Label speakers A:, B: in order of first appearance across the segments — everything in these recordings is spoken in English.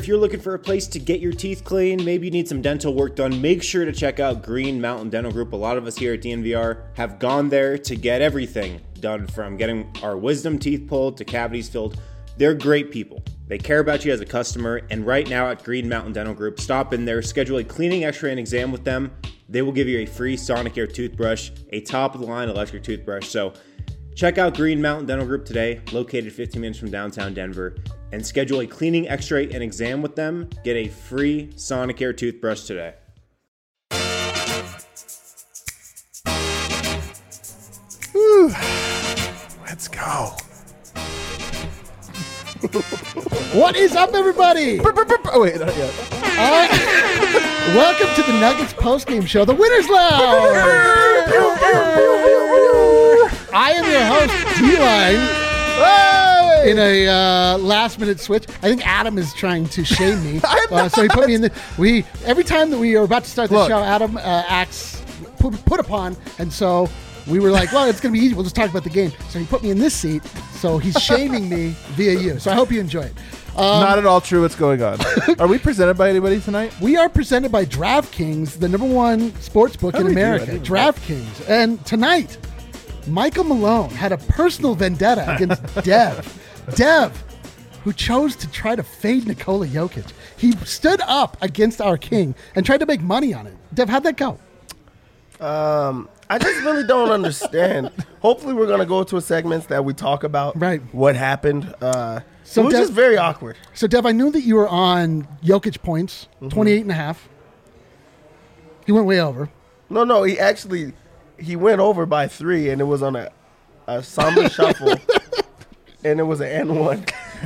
A: If you're looking for a place to get your teeth clean, maybe you need some dental work done, make sure to check out Green Mountain Dental Group. A lot of us here at DNVR have gone there to get everything done, from getting our wisdom teeth pulled to cavities filled. They're great people. They care about you as a customer, and right now at Green Mountain Dental Group, stop in there, schedule a cleaning, x-ray, and exam with them. They will give you a free Sonicare toothbrush, a top-of-the-line electric toothbrush. So check out Green Mountain Dental Group today, located 15 minutes from downtown Denver, and schedule a cleaning, x-ray, and exam with them. Get a free Sonicare toothbrush today.
B: Whew. Let's go.
C: What is up, everybody?
B: Oh, wait, not yet.
C: Welcome to the Nuggets postgame show, The Winner's Lounge. I am your host, D-Line. In a last-minute switch. I think Adam is trying to shame me. So he put me in the... Every time that we are about to start the show, Adam acts put upon, and so... we were like, well, it's going to be easy. We'll just talk about the game. So he put me in this seat. So he's shaming me via you. So I hope you enjoy it.
B: Not at all true what's going on. Are we presented by anybody tonight?
C: We are presented by DraftKings, the #1 sports book in America. DraftKings. And tonight, Michael Malone had a personal vendetta against Dev. Dev, who chose to try to fade Nikola Jokic. He stood up against our king and tried to make money on it. Dev, how'd that go?
D: I just really don't understand. Hopefully we're going to go to a segment that we talk about what happened. So it was just very awkward.
C: So, Dev, I knew that you were on Jokic points, 28.5. He went way over.
D: No, he went over by 3, and it was on a Samba shuffle, and it was an N1.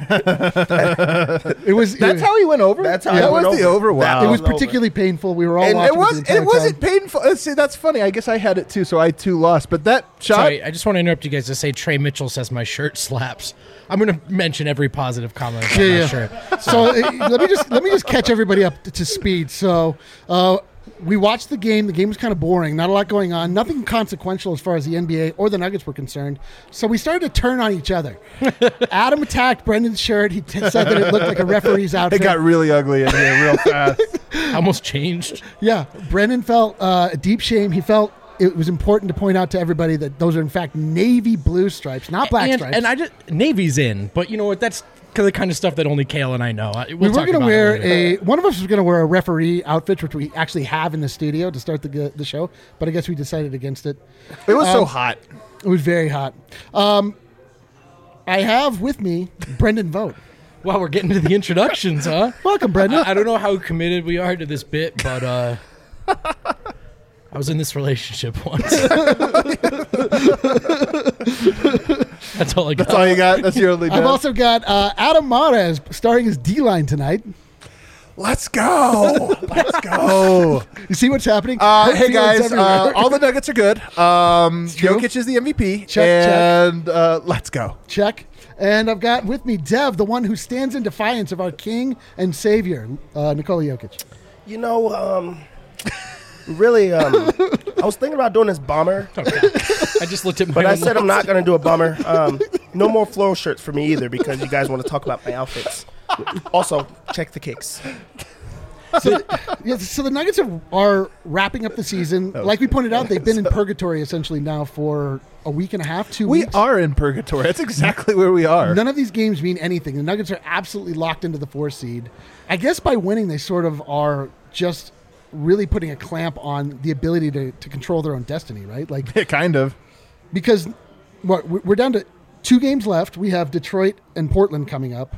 B: That's how he went over.
D: That's how he went over.
B: The over. Wow,
C: it was particularly painful. We were all watching.
B: It wasn't painful. See, that's funny. I guess I had it too, so I too lost. But that shot.
E: Sorry, I just want to interrupt you guys to say Trey Mitchell says my shirt slaps. I'm going to mention every positive comment about my shirt.
C: So let me just catch everybody up to speed. So. We watched the game. The game was kind of boring. Not a lot going on. Nothing consequential as far as the NBA or the Nuggets were concerned. So we started to turn on each other. Adam attacked Brendan's shirt. He said that it looked like a referee's outfit.
B: It got really ugly in here real fast.
E: Almost changed.
C: Yeah. Brendan felt a deep shame. He felt it was important to point out to everybody that those are, in fact, navy blue stripes, not black stripes.
E: And Navy's in. But you know what? That's the kind of stuff that only Kale and I know.
C: We were going to wear one of us was going to wear a referee outfit, which we actually have in the studio to start the show, but I guess we decided against it.
B: It was so hot.
C: It was very hot. I have with me Brendan Vogt.
E: Well, we're getting to the introductions, huh?
C: Welcome, Brendan.
E: I don't know how committed we are to this bit, but I was in this relationship once. That's all I got.
B: That's all you got? That's your only
C: I've also got Adam Mares starring as D-Line tonight.
B: Let's go. Let's go.
C: You see what's happening?
B: Hey, guys. All the Nuggets are good. Jokic is the MVP.
C: Check.
B: Let's go.
C: Check. And I've got with me Dev, the one who stands in defiance of our king and savior, Nikola Jokic.
D: You know, really, I was thinking about doing this bomber.
E: Okay. I just looked at my
D: But I said I'm not going to do a bomber. No more floral shirts for me either because you guys want to talk about my outfits. Also, check the kicks.
C: So the Nuggets are wrapping up the season. Like we pointed out, they've been in purgatory essentially now for a week and a half, 2 weeks.
B: We are in purgatory. That's exactly where we are.
C: None of these games mean anything. The Nuggets are absolutely locked into the 4 seed. I guess by winning, they sort of are just really putting a clamp on the ability to control their own destiny, right? Like,
B: yeah, kind of.
C: Because we're down to 2 games left. We have Detroit and Portland coming up.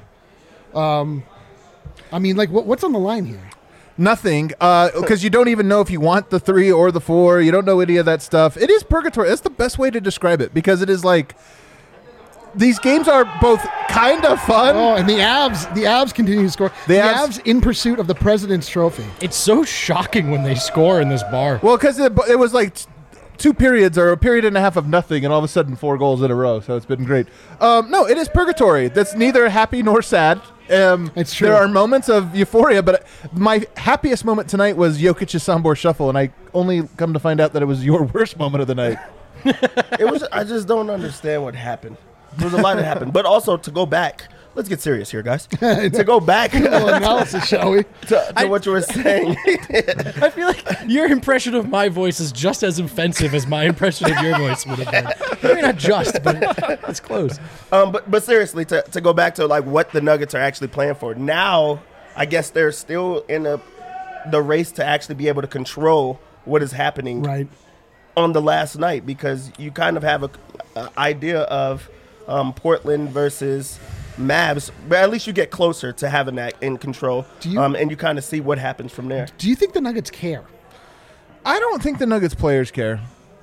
C: I mean, like, what's on the line here?
B: Nothing, because you don't even know if you want the 3 or the 4. You don't know any of that stuff. It is purgatory. That's the best way to describe it, because it is like these games are both kind of fun.
C: Oh, and the Avs continue to score. The Avs in pursuit of the President's Trophy.
E: It's so shocking when they score in this bar.
B: Well, because it was like 2 periods or a period and a half of nothing, and all of a sudden 4 goals in a row. So it's been great. No, it is purgatory. That's neither happy nor sad.
C: It's true.
B: There are moments of euphoria, but my happiest moment tonight was Jokic's Sambor Shuffle, and I only come to find out that it was your worst moment of the night.
D: I just don't understand what happened. There was a lot that happened. But also, to go back, let's get serious here, guys. To go back
C: analysis, shall we?
D: To what you were saying.
E: I feel like your impression of my voice is just as offensive as my impression of your voice would have been. Maybe not just, but it's close.
D: But seriously, to go back to like what the Nuggets are actually playing for now, I guess they're still in the race to actually be able to control what is happening on the last night, because you kind of have a idea of Portland versus Mavs, but at least you get closer to having that in control, and you kind of see what happens from there.
C: Do you think the Nuggets care?
B: I don't think the Nuggets players care.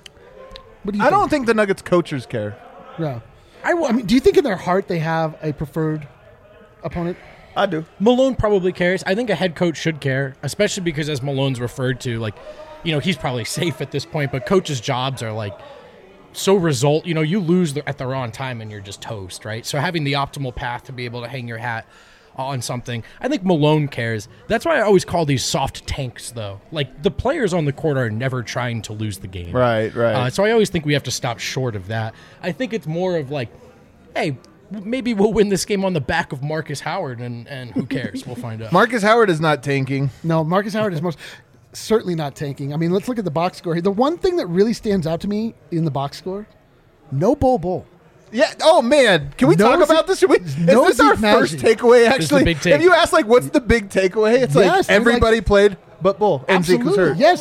B: I don't think the Nuggets coaches care.
C: Yeah. I mean, do you think in their heart they have a preferred opponent?
D: I do.
E: Malone probably cares. I think a head coach should care, especially because, as Malone's referred to, like, you know, he's probably safe at this point, but coaches' jobs are like so you lose at the wrong time and you're just toast, right? So having the optimal path to be able to hang your hat on something, I think Malone cares. That's why I always call these soft tanks, though. Like, the players on the court are never trying to lose the game.
B: Right.
E: So I always think we have to stop short of that. I think it's more of like, hey, maybe we'll win this game on the back of Marcus Howard, and who cares? We'll find out.
B: Marcus Howard is not tanking.
C: No, Marcus Howard is certainly not tanking. I mean, let's look at the box score here. The one thing that really stands out to me in the box score, no Bol.
B: Yeah. Oh man, can we talk about this? Is this our first takeaway? Actually, if you ask like, what's the big takeaway? It's like everybody played but Bol, and Zeke was hurt.
C: Yes.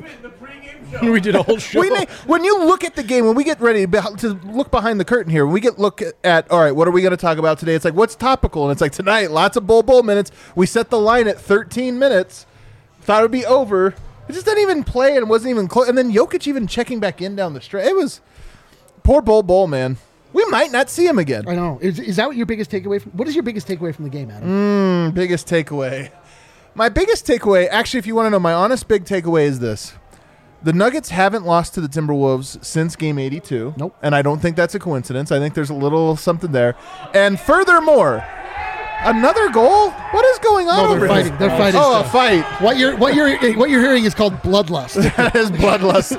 E: We did a whole show.
B: When you look at the game, when we get ready to look behind the curtain here, when we look at, all right, what are we going to talk about today? It's like, what's topical? And it's like, tonight, lots of Bol minutes. We set the line at 13 minutes. Thought it would be over. It just didn't even play and wasn't even close. And then Jokic even checking back in down the stretch. It was poor Bol, man. We might not see him again.
C: I know. Is that what your biggest takeaway? What is your biggest takeaway from the game, Adam?
B: Biggest takeaway. My biggest takeaway, actually, if you want to know, my honest big takeaway is this. The Nuggets haven't lost to the Timberwolves since Game 82.
C: Nope.
B: And I don't think that's a coincidence. I think there's a little something there. And furthermore, another goal? What is going on over
C: here? They're fighting.
B: Oh, a fight.
C: What you're hearing is called bloodlust.
B: That is bloodlust.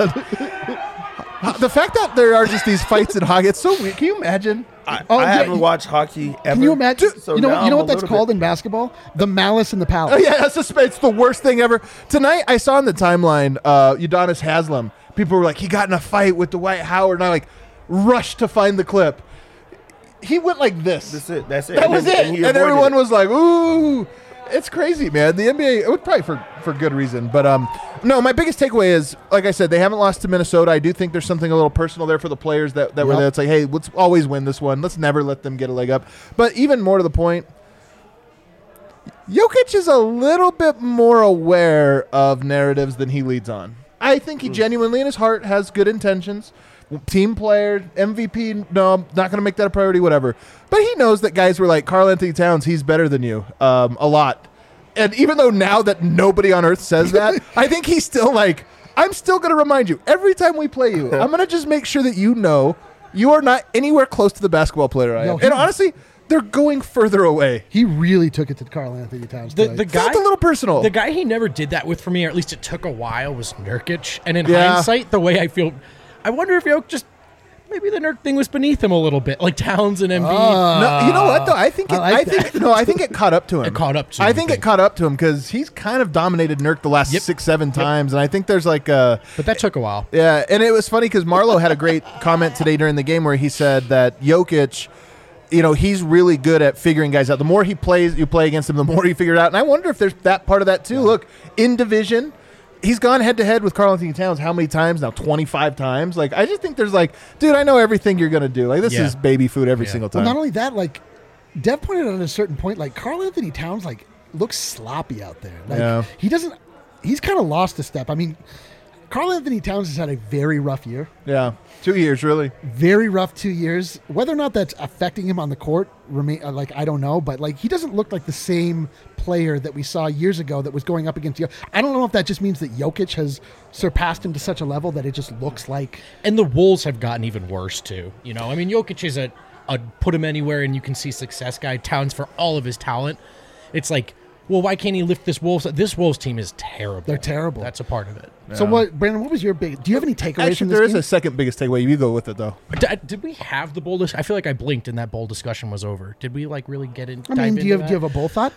B: The fact that there are just these fights in hockey, it's so weird. Can you imagine?
D: I haven't watched hockey ever.
C: Can you imagine? So you know what that's called in basketball? The malice in the palace.
B: Oh, yeah, it's the worst thing ever. Tonight, I saw on the timeline, Udonis Haslem. People were like, he got in a fight with Dwight Howard, and I rushed to find the clip. He went like this.
D: That's it.
B: That was it. And everyone was like, ooh. It's crazy, man. The NBA, it would probably for good reason. But no, my biggest takeaway is, like I said, they haven't lost to Minnesota. I do think there's something a little personal there for the players that were there. It's like, hey, let's always win this one. Let's never let them get a leg up. But even more to the point, Jokic is a little bit more aware of narratives than he leads on. I think he genuinely in his heart has good intentions. Team player, MVP, no, I'm not going to make that a priority, whatever. But he knows that guys were like, Karl-Anthony Towns, he's better than you a lot. And even though now that nobody on earth says that, I think he's still like, I'm still going to remind you, every time we play you, I'm going to just make sure that you know you are not anywhere close to the basketball player I am. And honestly, they're going further away.
C: He really took it to Karl-Anthony Towns.
E: The guy,
B: felt a little personal.
E: The guy he never did that with for me, or at least it took a while, was Nurkic. And in hindsight, the way I feel, I wonder if Jokic just maybe the Nurk thing was beneath him a little bit, like Towns and Embiid.
B: No, you know what though? I think it caught up to him.
E: It caught up to him.
B: I think it caught up to him because he's kind of dominated Nurk the last 6-7 times, and I think there's like a.
E: But that took a while.
B: Yeah, and it was funny because Marlo had a great comment today during the game where he said that Jokic, he's really good at figuring guys out. The more you play against him, the more you figure it out. And I wonder if there's that part of that too. Yeah. Look, in division, he's gone head-to-head with Karl-Anthony Towns how many times now? 25 times? Like, I just think there's like, dude, I know everything you're going to do. Like, this is baby food every single time.
C: Well, not only that, like, Dev pointed out at a certain point, like, Karl-Anthony Towns, like, looks sloppy out there. Like, he's kind of lost a step. I mean, Karl-Anthony Towns has had a very rough year.
B: Yeah, 2 years, really.
C: Very rough 2 years. Whether or not that's affecting him on the court, I don't know. But, like, he doesn't look like the same player that we saw years ago that was going up against Jokic. I don't know if that just means that Jokic has surpassed him to such a level that it just looks like.
E: And the Wolves have gotten even worse, too. I mean, Jokic is a put him anywhere and you can see success guy. Towns, for all of his talent, it's like, well, why can't he lift this Wolves? This Wolves team is terrible.
C: They're terrible.
E: That's a part of it.
C: So Brandon, what was your big? Do you have any takeaways
B: Actually,
C: from this
B: there is
C: game?
B: a second biggest takeaway. You go with it though.
E: Did we have the bowl? I feel like I blinked and that bowl discussion was over. Did we like really get in?
C: I mean, do you have a bowl thought?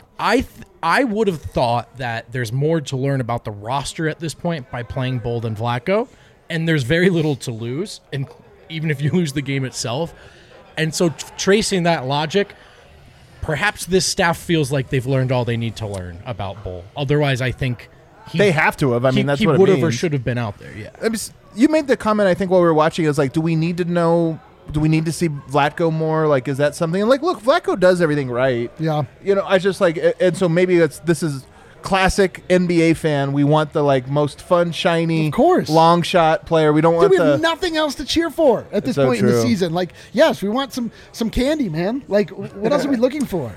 E: I would have thought that there's more to learn about the roster at this point by playing Bowl than Vlatko, and there's very little to lose, and even if you lose the game itself. And so tracing that logic, perhaps this staff feels like they've learned all they need to learn about Bowl. Otherwise, I think
B: They have to have. I mean, that's
E: he
B: what it
E: would have or
B: means.
E: should have been out there. Yeah.
B: I mean, you made the comment, I think, while we were watching. Is like, do we need to know? Do we need to see Vlatko more? Like, is that something? And like, look, Vlatko does everything right.
C: Yeah.
B: You know, I just like, and so maybe this is classic NBA fan. We want the like most fun, shiny,
C: Of course.
B: long shot player. We don't
C: Dude,
B: want
C: we
B: the.
C: have nothing else to cheer for at this
B: so
C: point in the
B: true.
C: season. Like, yes, we want some candy, man. Like, what else are we looking for?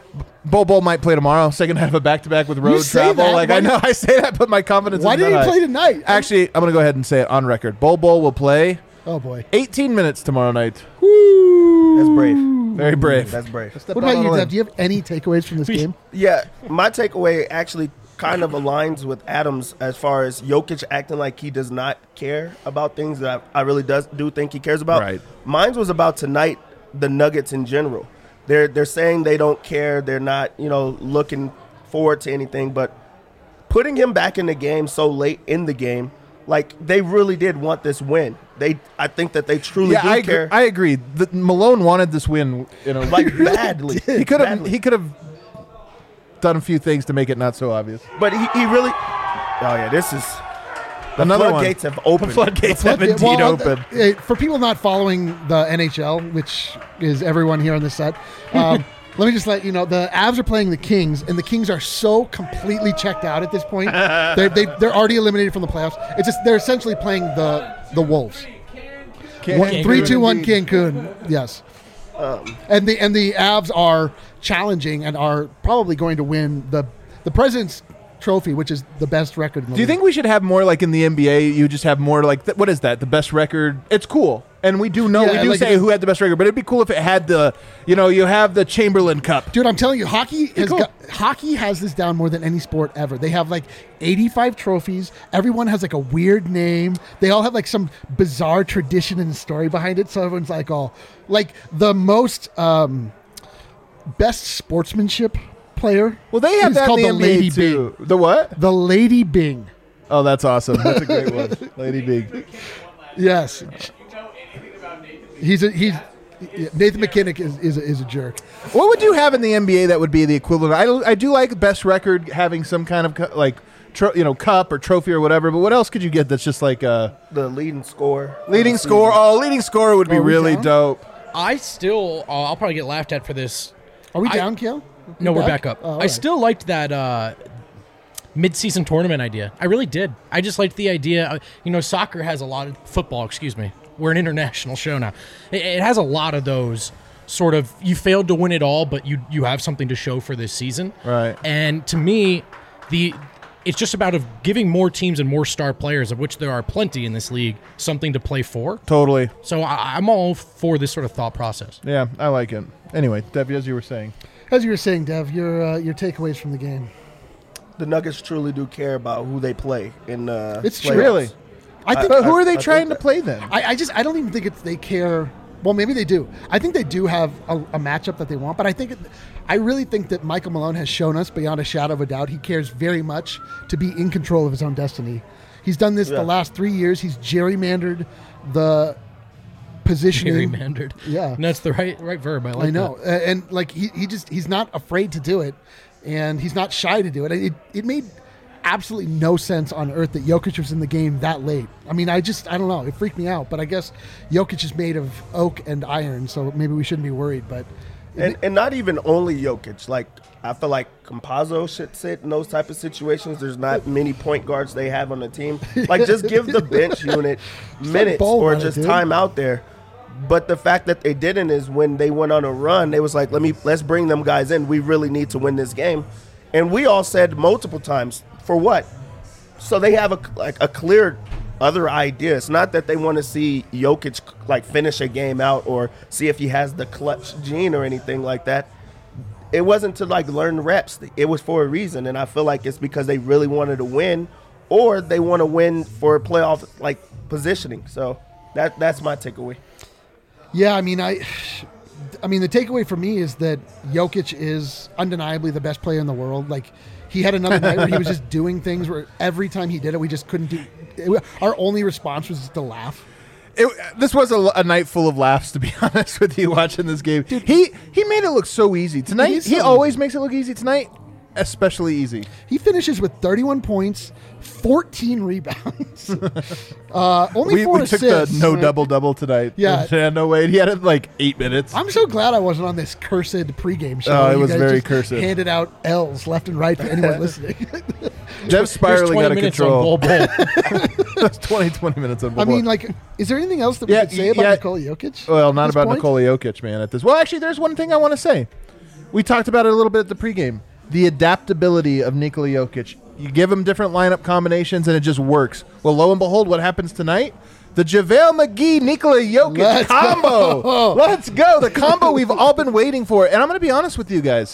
B: Bol might play tomorrow. Second half of back-to-back with road
C: say
B: travel.
C: that.
B: Like
C: Why
B: I know I say that, but my confidence.
C: Why
B: is
C: didn't
B: not
C: he
B: high.
C: play tonight?
B: Actually, I'm gonna go ahead and say it on record. Bol will play
C: Oh boy.
B: 18 minutes tomorrow night.
D: That's brave.
B: Very brave.
D: That's brave.
C: What about you, Dev? Do you have any takeaways from this game?
D: Yeah, my takeaway actually kind of aligns with Adam's as far as Jokic acting like he does not care about things that I really do think he cares about.
B: Right.
D: Mine was about tonight, the Nuggets in general. They're saying they don't care. They're not, looking forward to anything. But putting him back in the game so late in the game, like they really did want this win. I think that they truly do care.
B: I agree. Malone wanted this win,
D: like badly.
B: he could have.
D: Badly.
B: He could have done a few things to make it not so obvious.
D: But he really. Oh yeah, this is. The
B: Another
D: floodgates
B: one.
D: have opened.
B: The floodgates have indeed opened.
C: For people not following the NHL, which is everyone here on the set, let me just let you know the Avs are playing the Kings, and the Kings are so completely checked out at this point. They're already eliminated from the playoffs. It's just they're essentially playing the Wolves. 3-2-1 Cancun. Yes. And the Avs are challenging and are probably going to win the President's Trophy, which is the best record in the
B: Do you
C: league.
B: think we should have more like in the NBA? You just have more like what is that? The best record. It's cool, and we do know
C: Yeah,
B: we do
C: like
B: say who had the best record, but it'd be cool if it had the you have the Chamberlain Cup.
C: Dude, I'm telling you, hockey
B: cool.
C: hockey has this down more than any sport ever. They have like 85 trophies. Everyone has like a weird name. They all have like some bizarre tradition and story behind it. So everyone's like, like the most best sportsmanship player.
B: Well, they have
C: is
B: that
C: called
B: in the
C: the Lady
B: NBA too.
C: Bing.
B: The what?
C: The Lady Bing.
B: Oh, that's awesome. That's a great one, Lady Big.
C: Yes. He's Nathan McKinnon is a jerk.
B: What would you have in the NBA that would be the equivalent? I do like best record having some kind of like cup or trophy or whatever. But what else could you get that's just like
D: the leading score?
B: leading score? Oh, leading score would be
C: Are we
B: really
C: down?
B: dope.
E: I still, I'll probably get laughed at for this.
C: Are we down, Kale?
E: No, we're back up.
C: Oh, all
E: I
C: right.
E: still liked that mid-season tournament idea. I really did. I just liked the idea. Soccer has a lot of football. Excuse me. We're an international show now. It has a lot of those sort of. You failed to win it all, but you have something to show for this season.
B: Right.
E: And to me, it's just about giving more teams and more star players, of which there are plenty in this league, something to play for.
B: Totally.
E: So I'm all for this sort of thought process.
B: Yeah, I like it. Anyway, Debbie, as you were saying.
C: As you were saying, Dev, your takeaways from the game.
D: The Nuggets truly do care about who they play in
C: It's
D: playoffs.
C: true.
B: Really?
C: I think.
B: But who are they
D: I
B: trying
D: think
B: to play then?
C: I don't even think they care. Well, maybe they do. I think they do have a matchup that they want, but I really think that Michael Malone has shown us beyond a shadow of a doubt he cares very much to be in control of his own destiny. He's done this the last 3 years. He's gerrymandered the positioning.
E: Gerrymandered.
C: Yeah.
E: And that's the right verb. I like
C: I know,
E: that.
C: and like he's not afraid to do it, and he's not shy to do it. It made absolutely no sense on earth that Jokic was in the game that late. I mean, I don't know. It freaked me out, but I guess Jokic is made of oak and iron, so maybe we shouldn't be worried. But
D: And not even only Jokic. Like, I feel like Campazzo should sit in those type of situations. There's not many point guards they have on the team. Like, just give the bench unit minutes
C: bowl
D: or
C: on it,
D: just
C: dude.
D: time out there. But the fact that they didn't is when they went on a run, they was like, let's bring them guys in. We really need to win this game. And we all said multiple times, for what? So they have a clear other idea. It's not that they want to see Jokic like finish a game out or see if he has the clutch gene or anything like that. it wasn't to like learn reps. It was for a reason, and I feel like it's because they really wanted to win, or they want to win for playoff like positioning. So that's my takeaway.
C: Yeah, I mean, the takeaway for me is that Jokic is undeniably the best player in the world. Like, he had another night where he was just doing things where every time he did it, we just couldn't do. Our only response was just to laugh.
B: This was a night full of laughs, to be honest with you, watching this game. Dude, he made it look so easy. Tonight, he always makes it look easy. Tonight, especially easy.
C: He finishes with 31 points, 14 rebounds. Only 4 assists.
B: We took the no double-double tonight.
C: Yeah.
B: No way. He had it like 8 minutes.
C: I'm so glad I wasn't on this cursed pregame show.
B: Oh, it was very cursed.
C: Handed out L's left and right for anyone listening.
B: Jeff's spiraling out of control.
E: That's
B: 20 minutes on Bol
C: Bol. I mean, like, is there anything else that we could say about Nikola Jokic?
B: Well, not about Nikola Jokic, man. Well, actually, there's one thing I want to say. We talked about it a little bit at the pregame. The adaptability of Nikola Jokic. You give him different lineup combinations, and it just works. Well, lo and behold, what happens tonight? The JaVale McGee, Nikola Jokic combo. Let's go. The combo we've all been waiting for. And I'm going to be honest with you guys.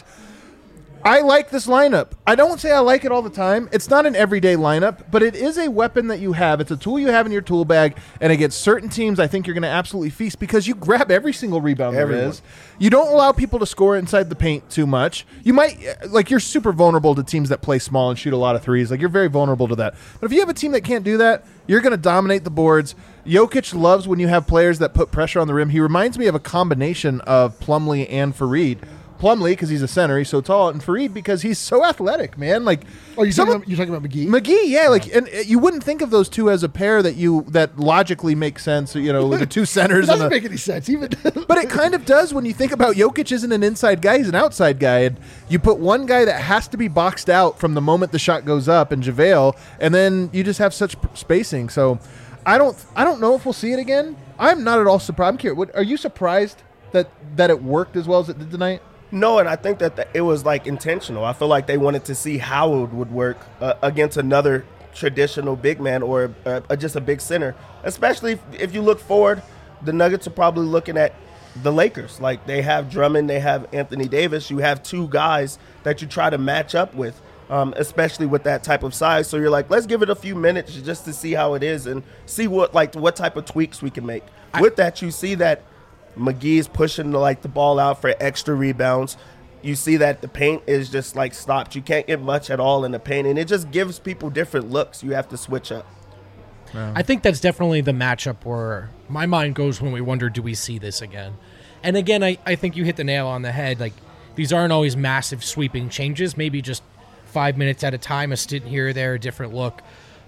B: I like this lineup. I don't say I like it all the time. It's not an everyday lineup, but it is a weapon that you have. It's a tool you have in your tool bag, and against certain teams, I think you're going to absolutely feast because you grab every single rebound there is. You don't allow people to score inside the paint too much. You might, like, you're super vulnerable to teams that play small and shoot a lot of threes. Like, you're very vulnerable to that. But if you have a team that can't do that, you're going to dominate the boards. Jokic loves when you have players that put pressure on the rim. He reminds me of a combination of Plumlee and Fareed. Plumlee, because he's a center, he's so tall, and Fareed because he's so athletic, man. Like,
C: you're talking about McGee?
B: McGee, yeah. Like, and you wouldn't think of those two as a pair that logically makes sense. You know, the two centers.
C: It doesn't make any sense, even.
B: But it kind of does when you think about Jokic isn't an inside guy; he's an outside guy, and you put one guy that has to be boxed out from the moment the shot goes up, and JaVale, and then you just have such spacing. So, I don't know if we'll see it again. I'm not at all surprised. I'm curious. Are you surprised that it worked as well as it did tonight?
D: No, and I think that it was like intentional. I feel like they wanted to see how it would work against another traditional big man or just a big center. Especially if you look forward, the Nuggets are probably looking at the Lakers. Like, they have Drummond, they have Anthony Davis. You have two guys that you try to match up with, especially with that type of size. So you're like, let's give it a few minutes just to see how it is and see what type of tweaks we can make. With that, you see that McGee is pushing the ball out for extra rebounds. You see that the paint is just stopped. You can't get much at all in the paint, and it just gives people different looks. You have to switch up.
E: Yeah. I think that's definitely the matchup where my mind goes when we wonder, do we see this again? And again, I think you hit the nail on the head. Like, these aren't always massive sweeping changes. Maybe just 5 minutes at a time, a stint here or there, a different look.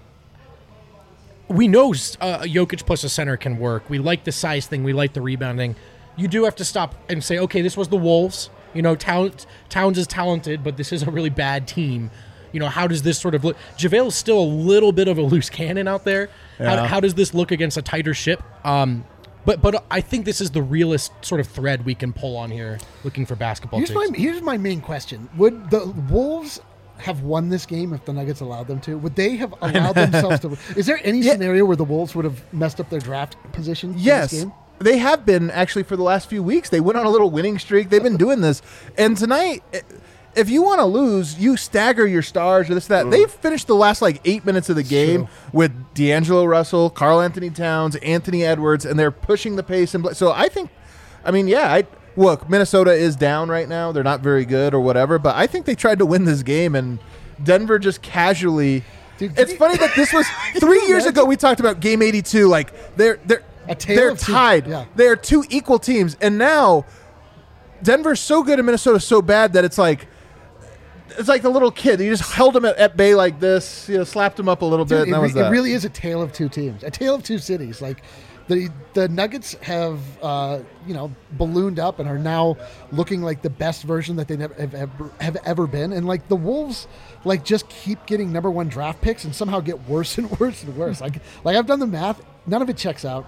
E: We know Jokic plus a center can work. We like the size thing. We like the rebounding. You do have to stop and say, okay, this was the Wolves. You know, Towns is talented, but this is a really bad team. You know, how does this sort of look? JaVale is still a little bit of a loose cannon out there. Yeah. How does this look against a tighter ship? But I think this is the realest sort of thread we can pull on here, looking for basketball.
C: Here's my main question: would the Wolves have won this game if the Nuggets allowed them to? Would they have allowed themselves to? Is there any scenario where the Wolves would have messed up their draft position?
B: Yes.
C: In this game?
B: They have been, actually, for the last few weeks. They went on a little winning streak. They've been doing this. And tonight, if you want to lose, you stagger your stars or this, that. They've finished the last 8 minutes of the game with D'Angelo Russell, Karl Anthony Towns, Anthony Edwards, and they're pushing the pace. So I think, look, Minnesota is down right now. They're not very good or whatever, but I think they tried to win this game, and Denver just casually. Dude, it's funny that this was 3 years ago. We talked about Game 82. They're tied. Yeah. They're two equal teams, and now Denver's so good and Minnesota's so bad that it's like the little kid. You just held him at bay like this, slapped him up a little bit, and that was that.
C: It really is a tale of two teams, a tale of two cities. Like, the Nuggets have ballooned up and are now looking like the best version that they have ever been, and the Wolves just keep getting number one draft picks and somehow get worse and worse and worse. like I've done the math, none of it checks out.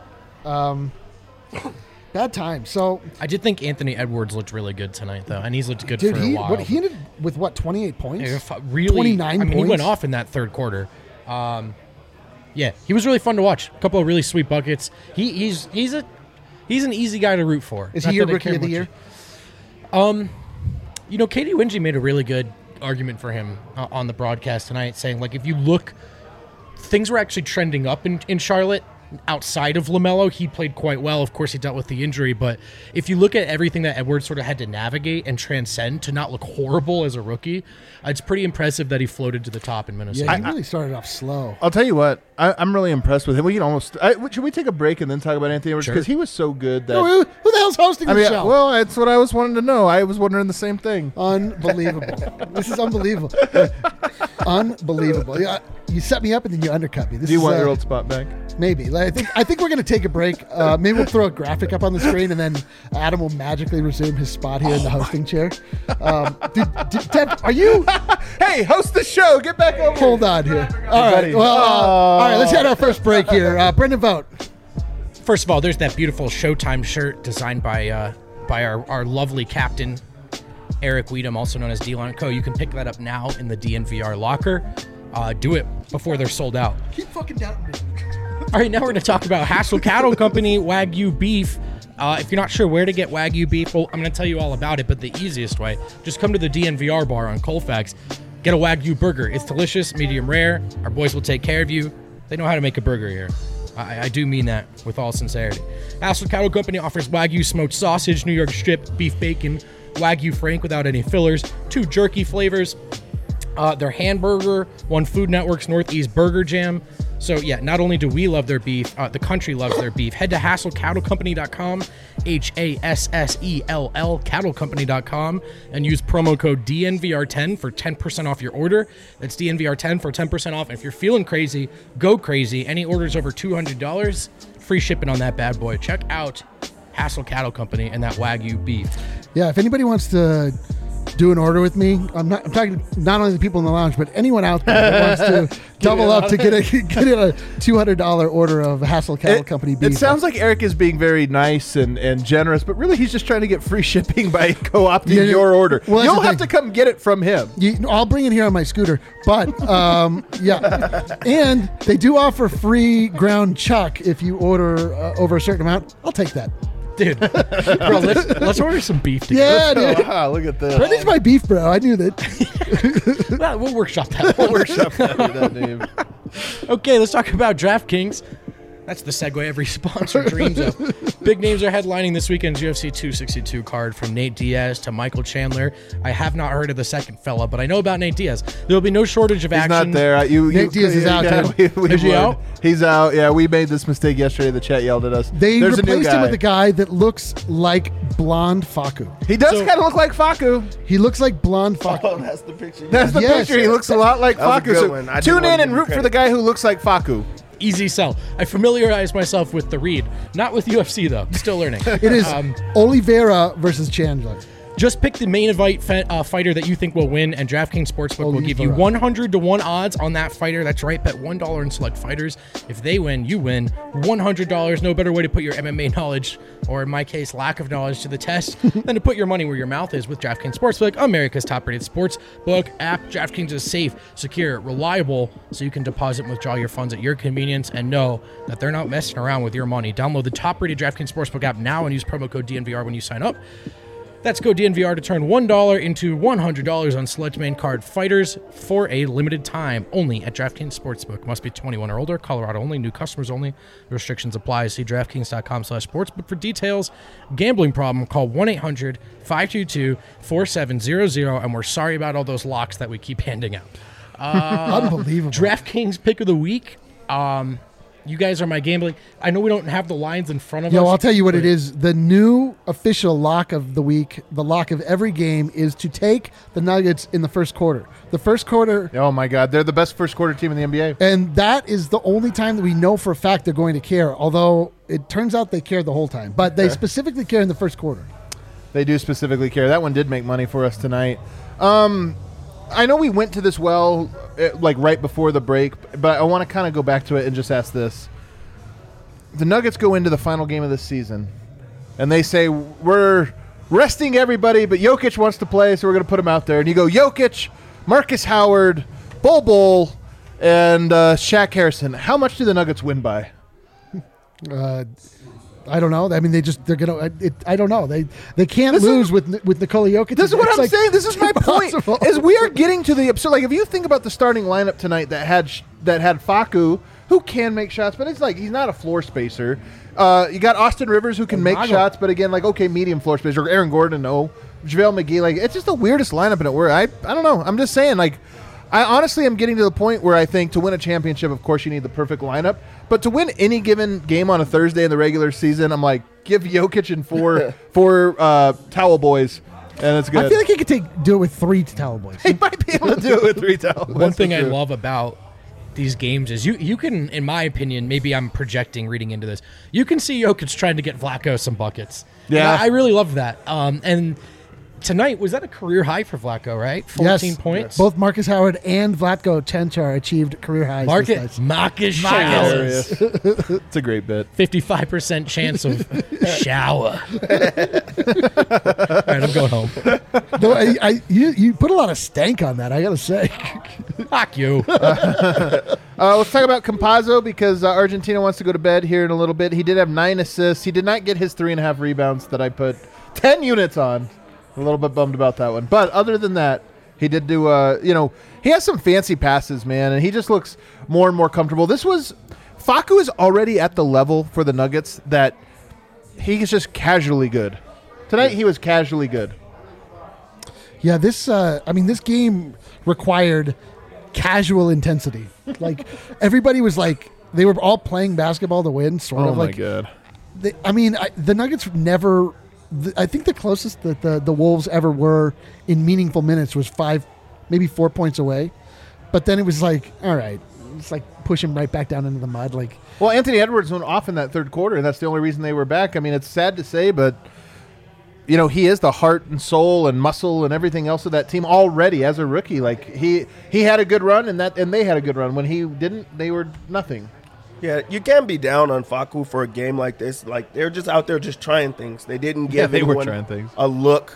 C: Bad time. So
E: I did think Anthony Edwards looked really good tonight, though, and he's looked good for a while.
C: He ended with 28 points?
E: Yeah, really,
C: 29 points?
E: He went off in that third quarter. Yeah, he was really fun to watch. A couple of really sweet buckets. He's an easy guy to root for.
C: Is he your rookie of the year?
E: You know, Katie Wingy made a really good argument for him on the broadcast tonight, saying, like, if you look, things were actually trending up in Charlotte. Outside of LaMelo, he played quite well. Of course, he dealt with the injury, but if you look at everything that Edwards sort of had to navigate and transcend to not look horrible as a rookie, it's pretty impressive that he floated to the top in Minnesota.
C: Yeah, he really started off slow.
B: I'll tell you what, I'm really impressed with him. We can almost should we take a break and then talk about Anthony Edwards, because he was so good that
C: who the hell's hosting the show?
B: Well, that's what I was wanting to know. I was wondering the same thing.
C: Unbelievable. This is unbelievable. Unbelievable. Yeah, you set me up and then you undercut me.
B: Do you want your old spot back?
C: Maybe. I think we're going to take a break. Maybe we'll throw a graphic up on the screen, and then Adam will magically resume his spot here in the hosting chair. Ted, are you?
B: Hey, host the show. Get back over.
C: Hold on here. All right. Well, all right. Let's have our first break here. Brendan Vogt.
E: First of all, there's that beautiful Showtime shirt designed by our lovely captain, Eric Weedham, also known as D-Line Co. You can pick that up now in the DNVR locker. Do it before they're sold out.
C: Keep fucking doubting me.
E: All right, now we're going to talk about Hassel Cattle Company Wagyu beef. If you're not sure where to get Wagyu beef, well, I'm going to tell you all about it, but the easiest way, just come to the DNVR bar on Colfax, get a Wagyu burger. It's delicious, medium rare. Our boys will take care of you. They know how to make a burger here. I do mean that with all sincerity. Hassel Cattle Company offers Wagyu smoked sausage, New York strip, beef bacon, Wagyu Frank without any fillers, 2 jerky flavors, their hamburger, one Food Network's Northeast Burger Jam. So, yeah, not only do we love their beef, the country loves their beef. Head to HassellCattleCompany.com, HASSELL, CattleCompany.com, and use promo code DNVR10 for 10% off your order. That's DNVR10 for 10% off. And if you're feeling crazy, go crazy. Any orders over $200, free shipping on that bad boy. Check out Hassel Cattle Company and that Wagyu beef.
C: Yeah, if anybody wants to do an order with me, I'm talking not only the people in the lounge, but anyone out there that wants to double up to get a $200 order of Hassel Cattle Company beef.
B: It sounds like Eric is being very nice and generous, but really he's just trying to get free shipping by co-opting your order. Well, you'll have to come get it from him.
C: I'll bring it here on my scooter, but yeah. And they do offer free ground chuck if you order over a certain amount. I'll take that.
E: Dude, bro, let's order some beef together.
C: Yeah, dude.
B: Wow, look at this.
C: Brendan's my beef bro. I knew that.
E: Well, we'll workshop that. That name. Okay, let's talk about DraftKings. That's the segue every sponsor dreams of. Big names are headlining this weekend's UFC 262 card, from Nate Diaz to Michael Chandler. I have not heard of the second fella, but I know about Nate Diaz. There will be no shortage of action.
B: He's not there.
C: Nate Diaz is out.
B: Is he out? He's out. Yeah, we made this mistake yesterday. The chat yelled at us.
C: There's replaced him with a guy that looks like blonde Faku.
B: He does kind of look like Faku.
C: He looks like blonde Faku.
D: Oh, that's the picture.
B: That's the picture. He looks a lot like Faku. So tune in and root for the guy who looks like Faku.
E: Easy sell. I familiarized myself with the read. Not with UFC, though. Still learning.
C: It is Oliveira versus Chandler.
E: Just pick the main event fighter that you think will win, and DraftKings Sportsbook will give you 100-1 odds on that fighter. That's right. Bet $1 on select fighters. If they win, you win. $100. No better way to put your MMA knowledge, or in my case, lack of knowledge, to the test than to put your money where your mouth is with DraftKings Sportsbook, America's top-rated sportsbook app. DraftKings is safe, secure, reliable, so you can deposit and withdraw your funds at your convenience and know that they're not messing around with your money. Download the top-rated DraftKings Sportsbook app now and use promo code DNVR when you sign up. That's code DNVR to turn $1 into $100 on select main card fighters for a limited time, only at DraftKings Sportsbook. Must be 21 or older. Colorado only. New customers only. Restrictions apply. See DraftKings.com/sportsbook for details. Gambling problem? Call 1-800-522-4700. And we're sorry about all those locks that we keep handing out.
C: Unbelievable.
E: DraftKings pick of the week. You guys are my gambling. I know we don't have the lines in front of us.
C: Yo, I'll tell you what it is. The new official lock of the week, the lock of every game, is to take the Nuggets in the first quarter. The first quarter.
B: Oh, my God. They're the best first quarter team in the NBA.
C: And that is the only time that we know for a fact they're going to care, although it turns out they care the whole time. But they specifically care in the first quarter.
B: They do specifically care. That one did make money for us tonight. I know we went to this like right before the break, but I want to kind of go back to it and just ask this. The Nuggets go into the final game of this season, and they say, we're resting everybody, but Jokic wants to play, so we're going to put him out there. And you go, Jokic, Marcus Howard, Bol, and Shaq Harrison. How much do the Nuggets win by?
C: I don't know. I mean, they're gonna. I don't know. They can't lose with Nikola Jokic.
B: This is what I'm saying. This is my point. Is we are getting to the absurd. Like if you think about the starting lineup tonight that had Facu, who can make shots, but it's like he's not a floor spacer. You got Austin Rivers who can make shots, but again, like okay, medium floor spacer. Aaron Gordon, no. JaVale McGee, like it's just the weirdest lineup in it. Where I don't know. I'm just saying, like. I honestly am getting to the point where I think to win a championship, of course, you need the perfect lineup. But to win any given game on a Thursday in the regular season, I'm like, give Jokic and four towel boys, and it's good.
C: I feel like he could do it with 3 towel boys.
B: He might be able to do it with 3 towel boys.
E: One thing I love about these games is you can, in my opinion, maybe I'm projecting reading into this, you can see Jokic trying to get Vlatko some buckets.
B: Yeah.
E: I really love that. And tonight, was that a career high for Vlatko, right? 14 points?
C: Both Marcus Howard and Vlatko Čančar achieved career highs.
E: Marcus showers.
B: It's a great bit.
E: 55% chance of shower. All right, I'm going home.
C: No, you put a lot of stank on that, I got to say.
E: Fuck you.
B: Let's talk about Campazzo because Argentina wants to go to bed here in a little bit. He did have 9 assists. He did not get his 3.5 rebounds that I put 10 units on. A little bit bummed about that one. But other than that, he did do, he has some fancy passes, man, and he just looks more and more comfortable. Facu is already at the level for the Nuggets that he's just casually good. Tonight he was casually good.
C: Yeah, this game required casual intensity. Like, everybody was like, they were all playing basketball to win, sort of like.
B: Oh, my God.
C: The Nuggets never... I think the closest that the Wolves ever were in meaningful minutes was 5, maybe 4 points away. But then it was like, all right, it's like push him right back down into the mud. Like,
B: well, Anthony Edwards went off in that third quarter, and that's the only reason they were back. I mean, it's sad to say, but he is the heart and soul and muscle and everything else of that team already as a rookie. Like he had a good run, and they had a good run. When he didn't, they were nothing.
D: Yeah, you can't be down on Facu for a game like this. Like, they're just out there just trying things. They didn't give anyone a look.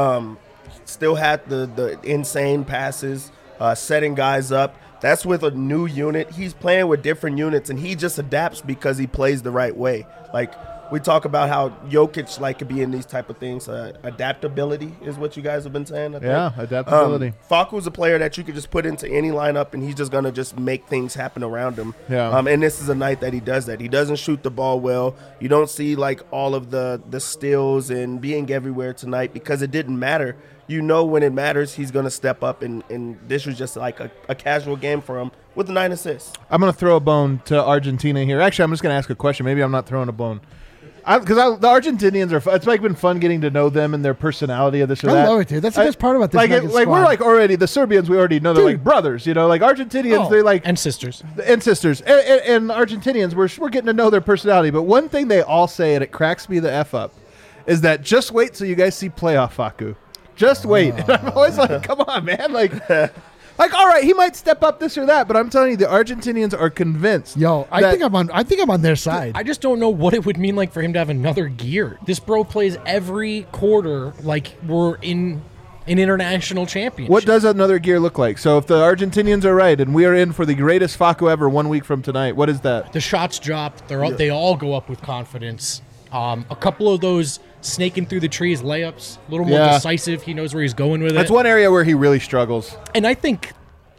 D: Still had the insane passes, setting guys up. That's with a new unit. He's playing with different units, and he just adapts because he plays the right way. Like, we talk about how Jokic could be in these type of things. Adaptability is what you guys have been saying. I think.
B: Yeah, adaptability.
D: Facu's a player that you could just put into any lineup, and he's just going to just make things happen around him.
B: Yeah.
D: And this is a night that he does that. He doesn't shoot the ball well. You don't see all of the steals and being everywhere tonight because it didn't matter. When it matters, he's going to step up, and this was just like a casual game for him with 9 assists.
B: I'm going to throw a bone to Argentina here. Actually, I'm just going to ask a question. Maybe I'm not throwing a bone. Because the Argentinians are fun. It's been fun getting to know them and their personality of this or that.
C: I love it, dude. That's the best part about this.
B: We're already the Serbians. We already know they're like brothers. Like Argentinians, they're like
E: and sisters
B: and Argentinians. We're getting to know their personality. But one thing they all say, and it cracks me the f up, is that just wait till you guys see playoff Facu. Just wait. And I'm always like, come on, man. Like, all right, he might step up this or that, but I'm telling you, the Argentinians are convinced.
C: I think I'm on their side.
E: I just don't know what it would mean like for him to have another gear. This bro plays every quarter like we're in an international championship.
B: What does another gear look like? So if the Argentinians are right and we are in for the greatest Facu ever 1 week from tonight, what is that?
E: The shots drop. They all go up with confidence. A couple of those snaking through the trees layups, a little more decisive. He knows where he's going with it.
B: That's one area where he really struggles.
E: And I think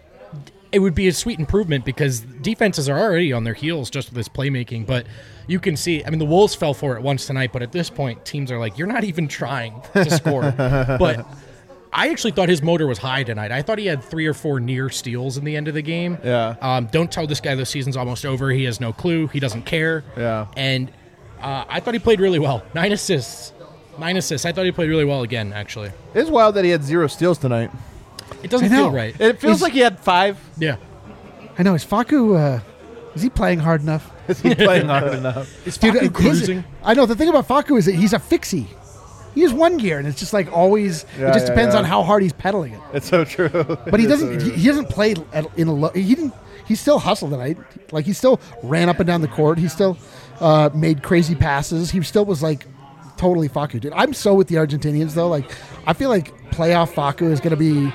E: it would be a sweet improvement because defenses are already on their heels just with this playmaking. But you can see, the Wolves fell for it once tonight, but at this point, teams are like, you're not even trying to score. But I actually thought his motor was high tonight. I thought he had 3 or 4 near steals in the end of the game.
B: Yeah.
E: Don't tell this guy the season's almost over. He has no clue. He doesn't care.
B: Yeah.
E: And I thought he played really well. 9 assists. I thought he played really well again, actually.
B: It's wild that he had 0 steals tonight.
E: It doesn't feel right.
B: It feels like he had 5.
E: Yeah.
C: I know. Is Facu, is he playing hard enough?
B: Is he playing hard enough?
E: Is Facu cruising?
C: I know. The thing about Facu is that he's a fixie. He has 1 gear, and it's just like always. It just depends on how hard he's pedaling it.
B: It's so true.
C: But he doesn't. He hasn't played in a low. He didn't. He still hustled tonight. Like, he still ran up and down the court. He still made crazy passes. He still was like totally Facu, dude. I'm so with the Argentinians though. Like, I feel like playoff Facu is going to be.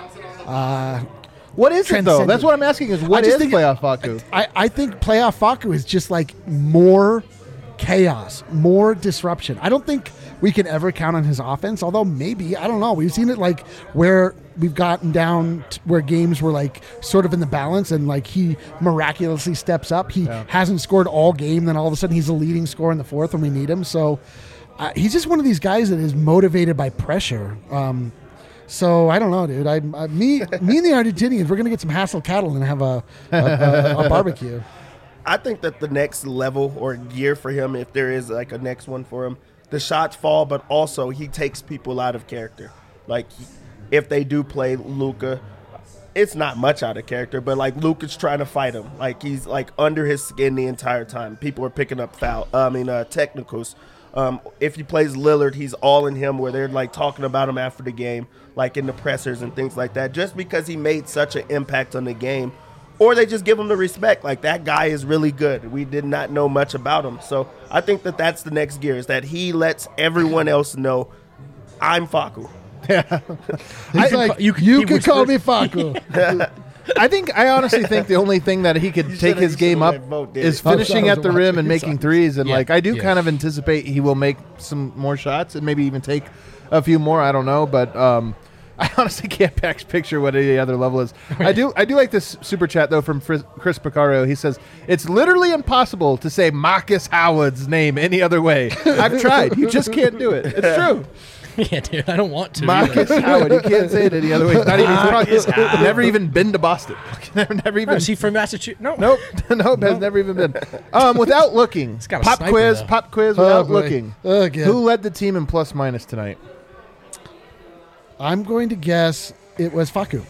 B: What is it though? That's what I'm asking. Is what is playoff Facu?
C: I think playoff Facu is just like more chaos, more disruption. I don't think we can ever count on his offense, although maybe, I don't know. We've seen it like where we've gotten down to where games were like sort of in the balance and like he miraculously steps up. He hasn't scored all game, then all of a sudden he's the leading scorer in the fourth when we need him. So he's just one of these guys that is motivated by pressure. So I don't know, dude. Me and the Argentinians, we're gonna get some Hassel cattle and have a barbecue.
D: I think that the next level or year for him, if there is like a next one for him, the shots fall, but also he takes people out of character. Like if they do play Luka, it's not much out of character, but like Luka's trying to fight him. Like he's like under his skin the entire time. People are picking up technicals. If he plays Lillard, he's all in him where they're like talking about him after the game, like in the pressers and things like that, just because he made such an impact on the game. Or they just give him the respect, like that guy is really good. We did not know much about him. So I think that that's the next gear, is that he lets everyone else know, I'm Facu.
B: Yeah.
C: You can call me Facu.
B: I honestly think the only thing that he could take his game up is finishing at the rim and making threes. And like I do kind of anticipate he will make some more shots and maybe even take a few more. I don't know, but I honestly can't picture what any other level is. I do like this super chat though from Chris Picario. He says it's literally impossible to say Marcus Howard's name any other way. I've tried. You just can't do it. It's true.
E: Yeah, dude, I don't want to.
B: Marcus Howard. You can't say it any other way. Not even, never even been to Boston. Never even.
E: Is he from Massachusetts? No.
B: Nope. Has never even been. Without looking. Pop quiz without looking. Who led the team in plus minus tonight?
C: I'm going to guess it was Facu.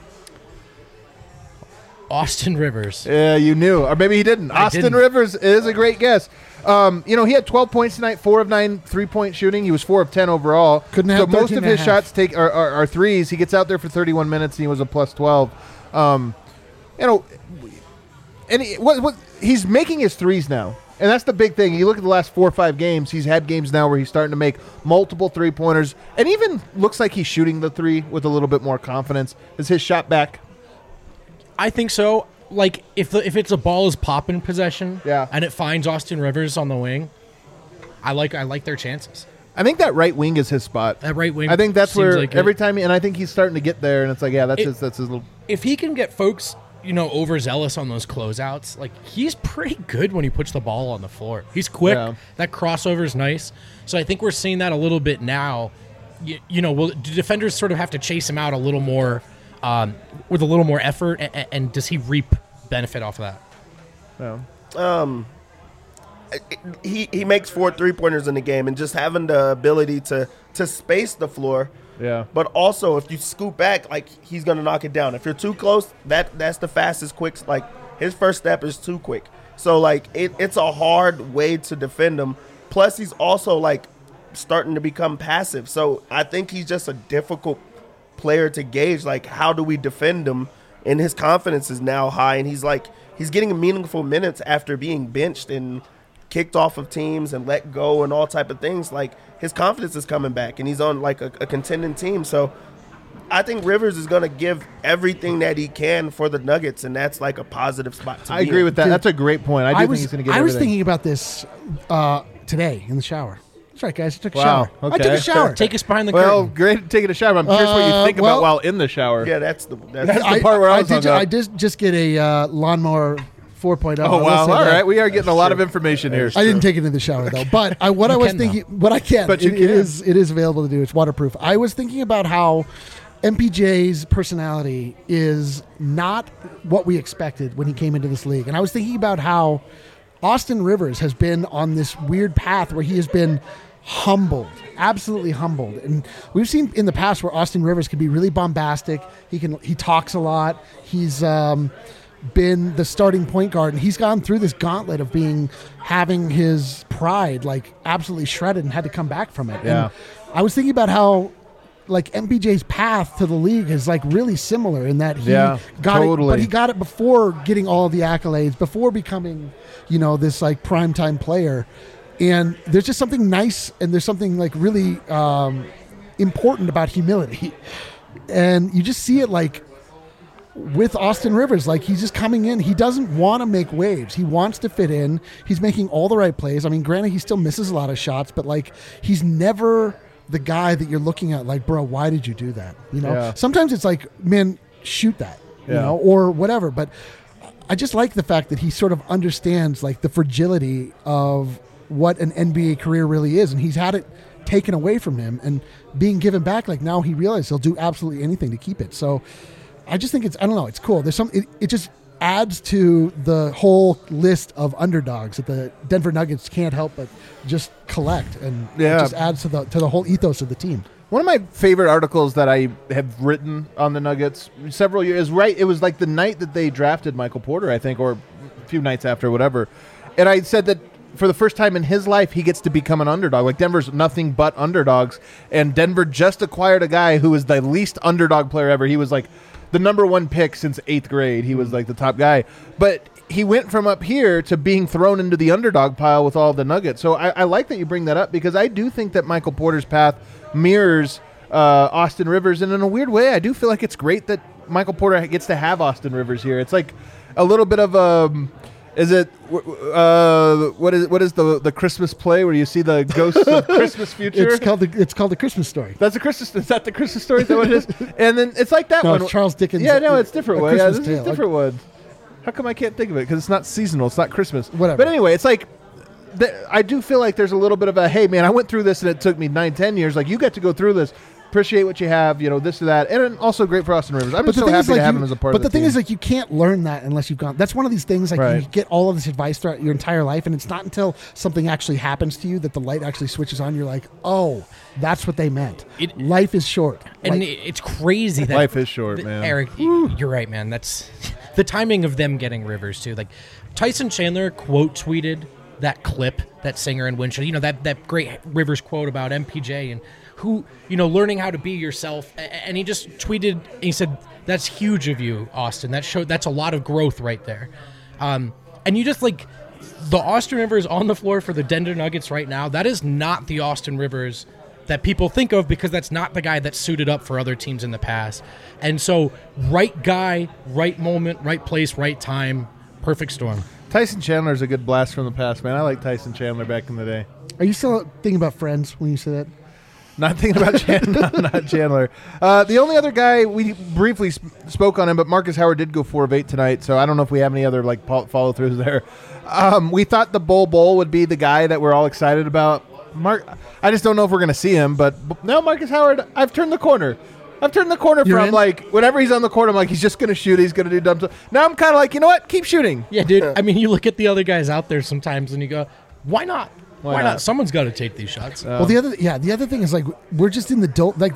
E: Austin Rivers.
B: Yeah, you knew. Or maybe he didn't. Austin Rivers is a great guess. He had 12 points tonight, 4 of 9 3-point shooting. He was 4 of 10 overall.
C: Couldn't have
B: so most of his shots are threes. He gets out there for 31 minutes, and he was a plus 12. He's making his threes now. And that's the big thing. You look at the last 4 or 5 games, he's had games now where he's starting to make multiple three-pointers and even looks like he's shooting the three with a little bit more confidence. Is his shot back?
E: I think so. Like, if it's a ball is popping possession and it finds Austin Rivers on the wing, I like their chances.
B: I think that right wing is his spot.
E: That right wing.
B: I think that's where like every time, and I think he's starting to get there, and it's like, that's his little.
E: If he can get folks, overzealous on those closeouts, like he's pretty good when he puts the ball on the floor. He's quick. Yeah. That crossover is nice. So I think we're seeing that a little bit now. Will defenders sort of have to chase him out a little more with a little more effort, and does he reap benefit off of that?
B: No.
D: He makes 4 3-pointers in the game, and just having the ability to space the floor.
B: Yeah.
D: But also, if you scoop back, like he's gonna knock it down. If you're too close, that's the fastest quick. Like his first step is too quick. So like it's a hard way to defend him. Plus, he's also like starting to become passive. So I think he's just a difficult player to gauge. Like, how do we defend him? And his confidence is now high, and he's getting meaningful minutes after being benched and kicked off of teams and let go and all type of things. Like, his confidence is coming back, and he's on like a contending team. So I think Rivers is going to give everything that he can for the Nuggets, and that's like a positive spot to
B: I agree with that. That's a great point. I think he's going to get everything.
C: I was thinking about this today in the shower. That's right, guys. I took a shower.
B: Okay.
C: I took a shower.
E: Take us behind the
B: curtain.
E: curtain.
B: Great taking a shower. I'm curious what you think about while in the shower.
D: Yeah, that's the
B: part where I
C: did just get a lawnmower 4.0.
B: Oh, wow. All right. We are getting a lot of information here.
C: I didn't take it in the shower, though. But what I was thinking, what I can, but it is available to do. It's waterproof. I was thinking about how MPJ's personality is not what we expected when he came into this league. And I was thinking about how Austin Rivers has been on this weird path where he has been humbled, absolutely humbled. And we've seen in the past where Austin Rivers can be really bombastic. He talks a lot. He's been the starting point guard, and he's gone through this gauntlet of having his pride like absolutely shredded and had to come back from it.
B: Yeah.
C: And I was thinking about how like MPJ's path to the league is like really similar in that he got it, but he got it before getting all of the accolades, before becoming, this like primetime player. And there's just something nice, and there's something like really important about humility. And you just see it like with Austin Rivers. Like, he's just coming in. He doesn't want to make waves. He wants to fit in. He's making all the right plays. I mean, granted, he still misses a lot of shots, but like, he's never the guy that you're looking at like, bro, why did you do that? You know, sometimes it's like, man, shoot that, you know, or whatever. But I just like the fact that he sort of understands like the fragility of what an NBA career really is. And he's had it taken away from him and being given back. Like, now he realizes he'll do absolutely anything to keep it. So I just think I don't know, it's cool. There's it just adds to the whole list of underdogs that the Denver Nuggets can't help but just collect, and it just adds to the whole ethos of the team.
B: One of my favorite articles that I have written on the Nuggets several years, it was like the night that they drafted Michael Porter, I think, or a few nights after, whatever. And I said that for the first time in his life, he gets to become an underdog. Like, Denver's nothing but underdogs, and Denver just acquired a guy who was the least underdog player ever. He was like the number one pick since 8th grade. He was like the top guy. But he went from up here to being thrown into the underdog pile with all the Nuggets. So I like that you bring that up, because I do think that Michael Porter's path mirrors Austin Rivers. And in a weird way, I do feel like it's great that Michael Porter gets to have Austin Rivers here. It's like a little bit of a... what is the Christmas play where you see the ghosts of Christmas future?
C: It's called the Christmas Story.
B: That's is that the Christmas Story? Is that what it is? And then it's like that one.
C: It's Charles Dickens.
B: Yeah, no, it's different one. Yeah, this is a different one.
C: How
B: How come I can't think of it? Because it's not seasonal. It's not Christmas.
C: Whatever.
B: But anyway, it's like, I do feel like there's a little bit of a, hey, man, I went through this and it took me 9-10 years. Like, you get to go through this. Appreciate what you have, this or that. And also great for Austin Rivers. I'm just so happy to have him as a part of the team.
C: But the thing is, like, you can't learn that unless you've gone. That's one of these things, like,
B: right.
C: You get all of this advice throughout your entire life, and it's not until something actually happens to you that the light actually switches on. You're like, oh, that's what they meant. Life is short.
E: And it's crazy that
B: life is short, man.
E: Eric, you're right, man. That's the timing of them getting Rivers, too. Like, Tyson Chandler quote tweeted that clip, that singer in Winchell, that great Rivers quote about MPJ and who, learning how to be yourself. And he just tweeted, and he said, that's huge of you, Austin. That's a lot of growth right there. And you just, like, the Austin Rivers on the floor for the Denver Nuggets right now, that is not the Austin Rivers that people think of, because that's not the guy that suited up for other teams in the past. And so, right guy, right moment, right place, right time, perfect storm.
B: Tyson Chandler's a good blast from the past, man. I like Tyson Chandler back in the day.
C: Are you still thinking about Friends when you say that?
B: Not thinking about not Chandler. The only other guy, we briefly spoke on him, but Marcus Howard did go 4 of 8 tonight, so I don't know if we have any other follow-throughs there. We thought the Bull would be the guy that we're all excited about. I just don't know if we're going to see him, but no, Marcus Howard, I've turned the corner. From, like, whenever he's on the court, I'm like, he's just going to shoot. He's going to do dumb stuff. Now I'm kind of like, you know what? Keep shooting.
E: Yeah, dude. I mean, you look at the other guys out there sometimes and you go, why not? Why not? Someone's got to take these shots.
C: Well, the other thing is, like, we're just in the like.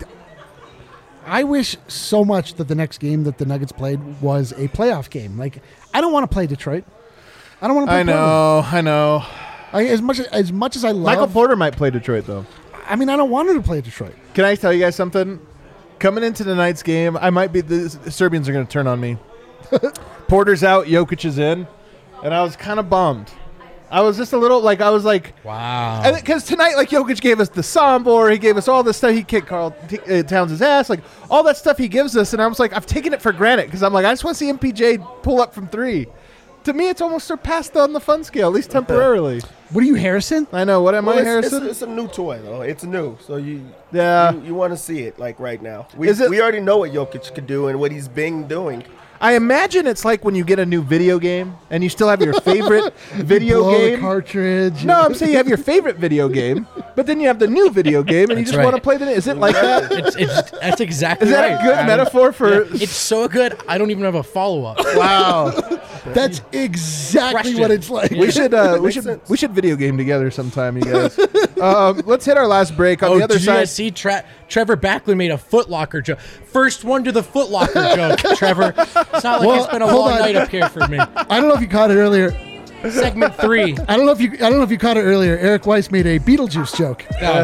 C: I wish so much that the next game that the Nuggets played was a playoff game. Like, I don't want to play Detroit. I don't want to play Portland.
B: I know.
C: As much as I love
B: Michael Porter might play Detroit, though.
C: I mean, I don't want him to play Detroit.
B: Can I tell you guys something? Coming into tonight's game, the Serbians are going to turn on me. Porter's out, Jokic is in, and I was kind of bummed. I was just a little, like,
E: wow.
B: Because tonight, like, Jokic gave us the Sombor, he gave us all this stuff, he kicked Karl Towns' ass, like, all that stuff he gives us, and I was like, I've taken it for granted, because I'm like, I just want to see MPJ pull up from 3. To me, it's almost surpassed on the fun scale, at least temporarily.
C: What are you, Harrison?
B: I know. What am I, Harrison?
D: It's a new toy, though. It's new, so you want to see it, like, right now. We already know what Jokic could do and what he's been doing.
B: I imagine it's like when you get a new video game and you still have your favorite video game.
C: The cartridge.
B: No, I'm saying you have your favorite video game, but then you have the new video game and you just want to play the. Is it like that?
E: That's exactly right.
B: Is that a good metaphor for?
E: Yeah, it's so good. I don't even have a follow-up.
B: Wow,
C: that's exactly what it's like.
B: We should video game together sometime, you guys. Let's hit our last break on the other side.
E: See, Trevor Backlund made a Foot Locker joke. First one to the Foot Locker joke, Trevor. It's not like it's been a long night up here for me.
C: I don't know if you caught it earlier.
E: Segment 3.
C: I don't know if you caught it earlier. Eric Weiss made a Beetlejuice joke.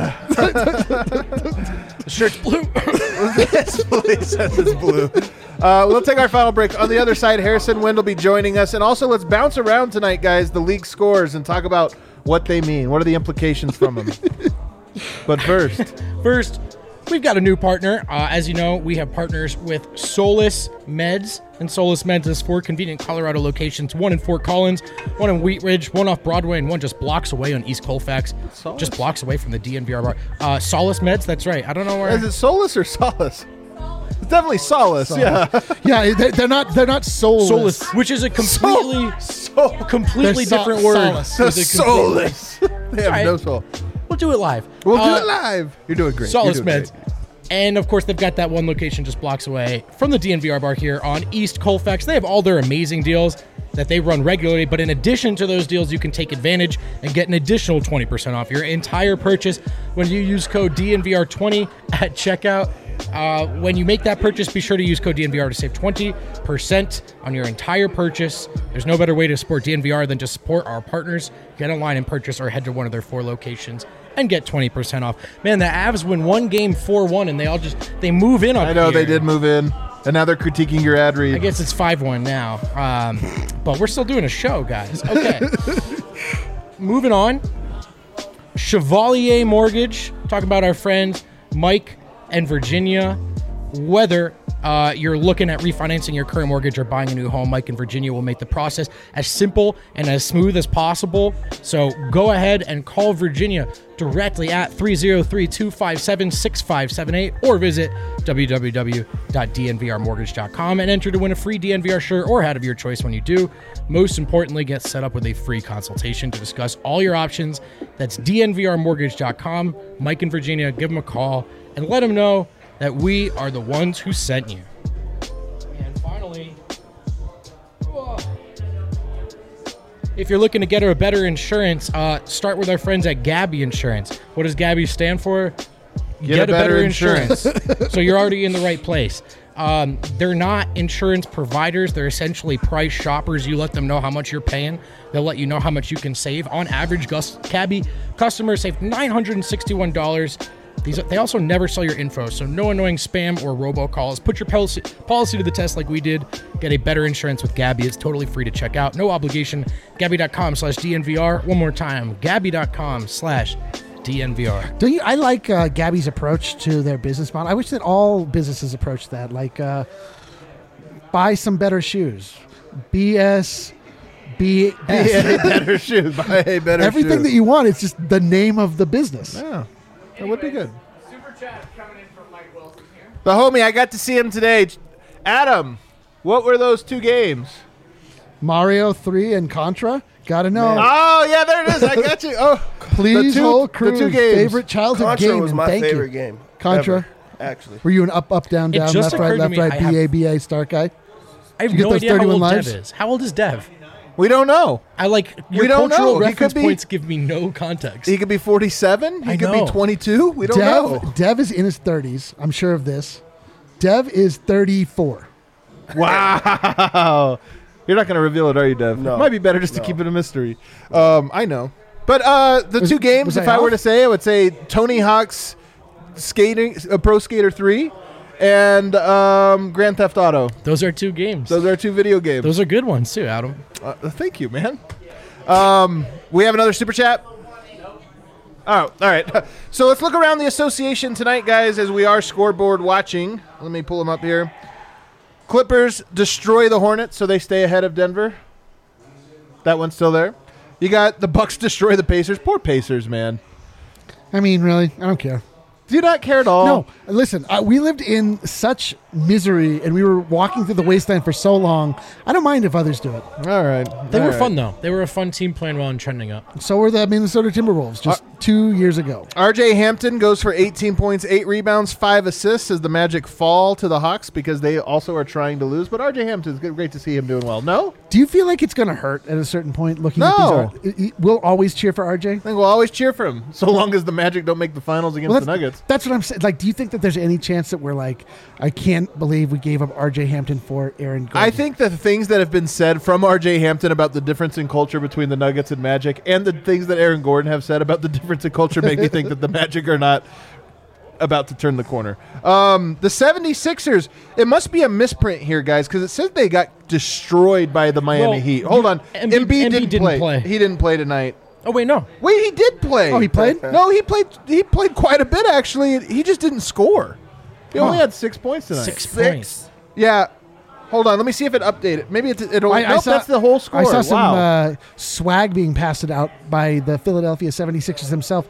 E: The shirt's blue.
B: Yes, please says it's blue. We'll take our final break. On the other side, Harrison Wind will be joining us. And also, let's bounce around tonight, guys, the league scores and talk about what they mean. What are the implications from them? But first,
E: we've got a new partner. As you know, we have partners with Solus Meds, and Solus Meds has 4 convenient Colorado locations, 1 in Fort Collins, 1 in Wheat Ridge, 1 off Broadway, and 1 just blocks away on East Colfax.
B: Solus?
E: Just blocks away from the DNVR bar. Solus Meds, that's right. I don't know where.
B: Is it Solus or Solace? It's definitely Solace. Yeah.
C: Yeah, they're not soulless.
E: Solus, which is a completely
C: They're
E: different word.
C: Solace.
E: With a complete-
B: Solus. They have
E: All right.
B: no soul.
E: We'll do it live.
B: We'll do it live. You're doing great.
E: Solus
B: You're doing
E: Meds. And of course, they've got that one location just blocks away from the DNVR bar here on East Colfax. They have all their amazing deals that they run regularly, but in addition to those deals, you can take advantage and get an additional 20% off your entire purchase when you use code DNVR20 at checkout. When you make that purchase, be sure to use code DNVR to save 20% on your entire purchase. There's no better way to support DNVR than to support our partners. Get online and purchase or head to one of their 4 locations and get 20% off. Man, the Avs win one game 4-1 and they move in on
B: I know
E: here.
B: they did move in, and now they're critiquing your ad read.
E: I guess it's 5-1 now. But we're still doing a show, guys. Okay. Moving on. Chevalier Mortgage. Talking about our friends Mike and Virginia. Whether you're looking at refinancing your current mortgage or buying a new home, Mike and Virginia will make the process as simple and as smooth as possible. So go ahead and call Virginia directly at 303-257-6578 or visit www.dnvrmortgage.com and enter to win a free DNVR shirt or hat of your choice when you do. Most importantly, get set up with a free consultation to discuss all your options. That's dnvrmortgage.com. Mike and Virginia, give them a call and let them know that we are the ones who sent you. And finally, if you're looking to get a better insurance, start with our friends at Gabby Insurance. What does Gabby stand for? Get a better insurance. So you're already in the right place. They're not insurance providers. They're essentially price shoppers. You let them know how much you're paying. They'll let you know how much you can save. On average, Gabby customers save $961. They also never sell your info, so no annoying spam or robocalls. Put your policy to the test like we did. Get a better insurance with Gabby. It's totally free to check out. No obligation. Gabby.com/DNVR. One more time. Gabby.com/DNVR.
C: I like Gabby's approach to their business model. I wish that all businesses approach that. Like, buy some better shoes. BS.
B: better shoes. Buy a better
C: Everything
B: shoes.
C: that you want. It's just the name of the business.
B: Yeah. That would be good.
F: Super chat coming in from Mike Wilson here.
B: The homie, I got to see him today. Adam, what were those 2 games?
C: Mario 3 and Contra. Gotta know.
B: Oh, yeah, there it is. I got you. Oh,
C: Please, whole crew,
B: the 2 games.
C: favorite childhood
D: Contra
C: game.
D: was
C: and
D: my
C: thank
D: favorite
C: you.
D: game.
C: Contra.
D: Ever, actually.
C: Were you an up, down,
E: It
C: down,
E: just
C: left, right,
E: occurred to
C: left,
E: me,
C: right,
E: I have-
C: BA, start guy?
E: I have
C: You get
E: no
C: those
E: idea how
C: 31
E: old
C: lives?
E: Dev is. How old is Dev?
B: We don't know.
E: Your
B: don't
E: cultural
B: know. He could
E: reference
B: be-
E: points give me no context.
B: He could be 47. He
E: I
B: could
E: know.
B: be 22. We don't know.
C: Dev is in his 30s. I'm sure of this. Dev is 34.
B: Wow. You're not going to reveal it, are you, Dev?
D: No.
B: It might be better just to keep it a mystery. I know. But the 2 games,
C: was
B: if
C: I
B: I were
C: off?
B: to say, I would say Tony Hawk's Pro Skater 3 and Grand Theft Auto.
E: Those are 2 games.
B: Those are 2 video games.
E: Those are good ones too, Adam.
B: Thank you, man. We have another super chat. Oh, all right. So let's look around the association tonight, guys, as we are scoreboard watching. Let me pull them up here. Clippers destroy the Hornets, so they stay ahead of Denver. That one's still there. You got the Bucks destroy the Pacers. Poor Pacers, man.
C: I mean, really, I don't care.
B: Do you not care at all?
C: No, listen, we lived in such misery and we were walking through the wasteland for so long. I don't mind if others do it.
B: All right.
E: They
B: All
E: were
B: right.
E: fun though. They were a fun team playing well and trending up.
C: So were the Minnesota Timberwolves just 2 years ago.
B: RJ Hampton goes for 18 points, 8 rebounds, 5 assists as the Magic fall to the Hawks because they also are trying to lose. But RJ Hampton's great to see him doing well. No?
C: Do you feel like it's going to hurt at a certain point looking
B: No.
C: at these? We'll always cheer for RJ?
B: I think we'll always cheer for him, so long as the Magic don't make the finals against the Nuggets.
C: That's what I'm saying. Like, do you think that there's any chance that we're like, I can't believe we gave up RJ Hampton for Aaron Gordon?
B: I think that the things that have been said from RJ Hampton about the difference in culture between the Nuggets and Magic and the things that Aaron Gordon have said about the difference in culture make me think that the Magic are not about to turn the corner. The 76ers, it must be a misprint here, guys, because it says they got destroyed by the Miami
E: Well,
B: Heat. Hold on.
E: Embiid
B: Embiid didn't
E: didn't
B: play.
E: play.
B: He didn't play tonight.
E: Oh wait, no.
B: Wait, he did play.
C: Oh, he played?
B: No, he played. He played quite a bit actually. He just didn't score. He only had 6 points tonight.
E: Six points.
B: Yeah. Hold on. Let me see if it updated. Maybe it'll. Nope, that's the whole score.
C: I saw
B: Wow.
C: some swag being passed out by the Philadelphia 76ers himself.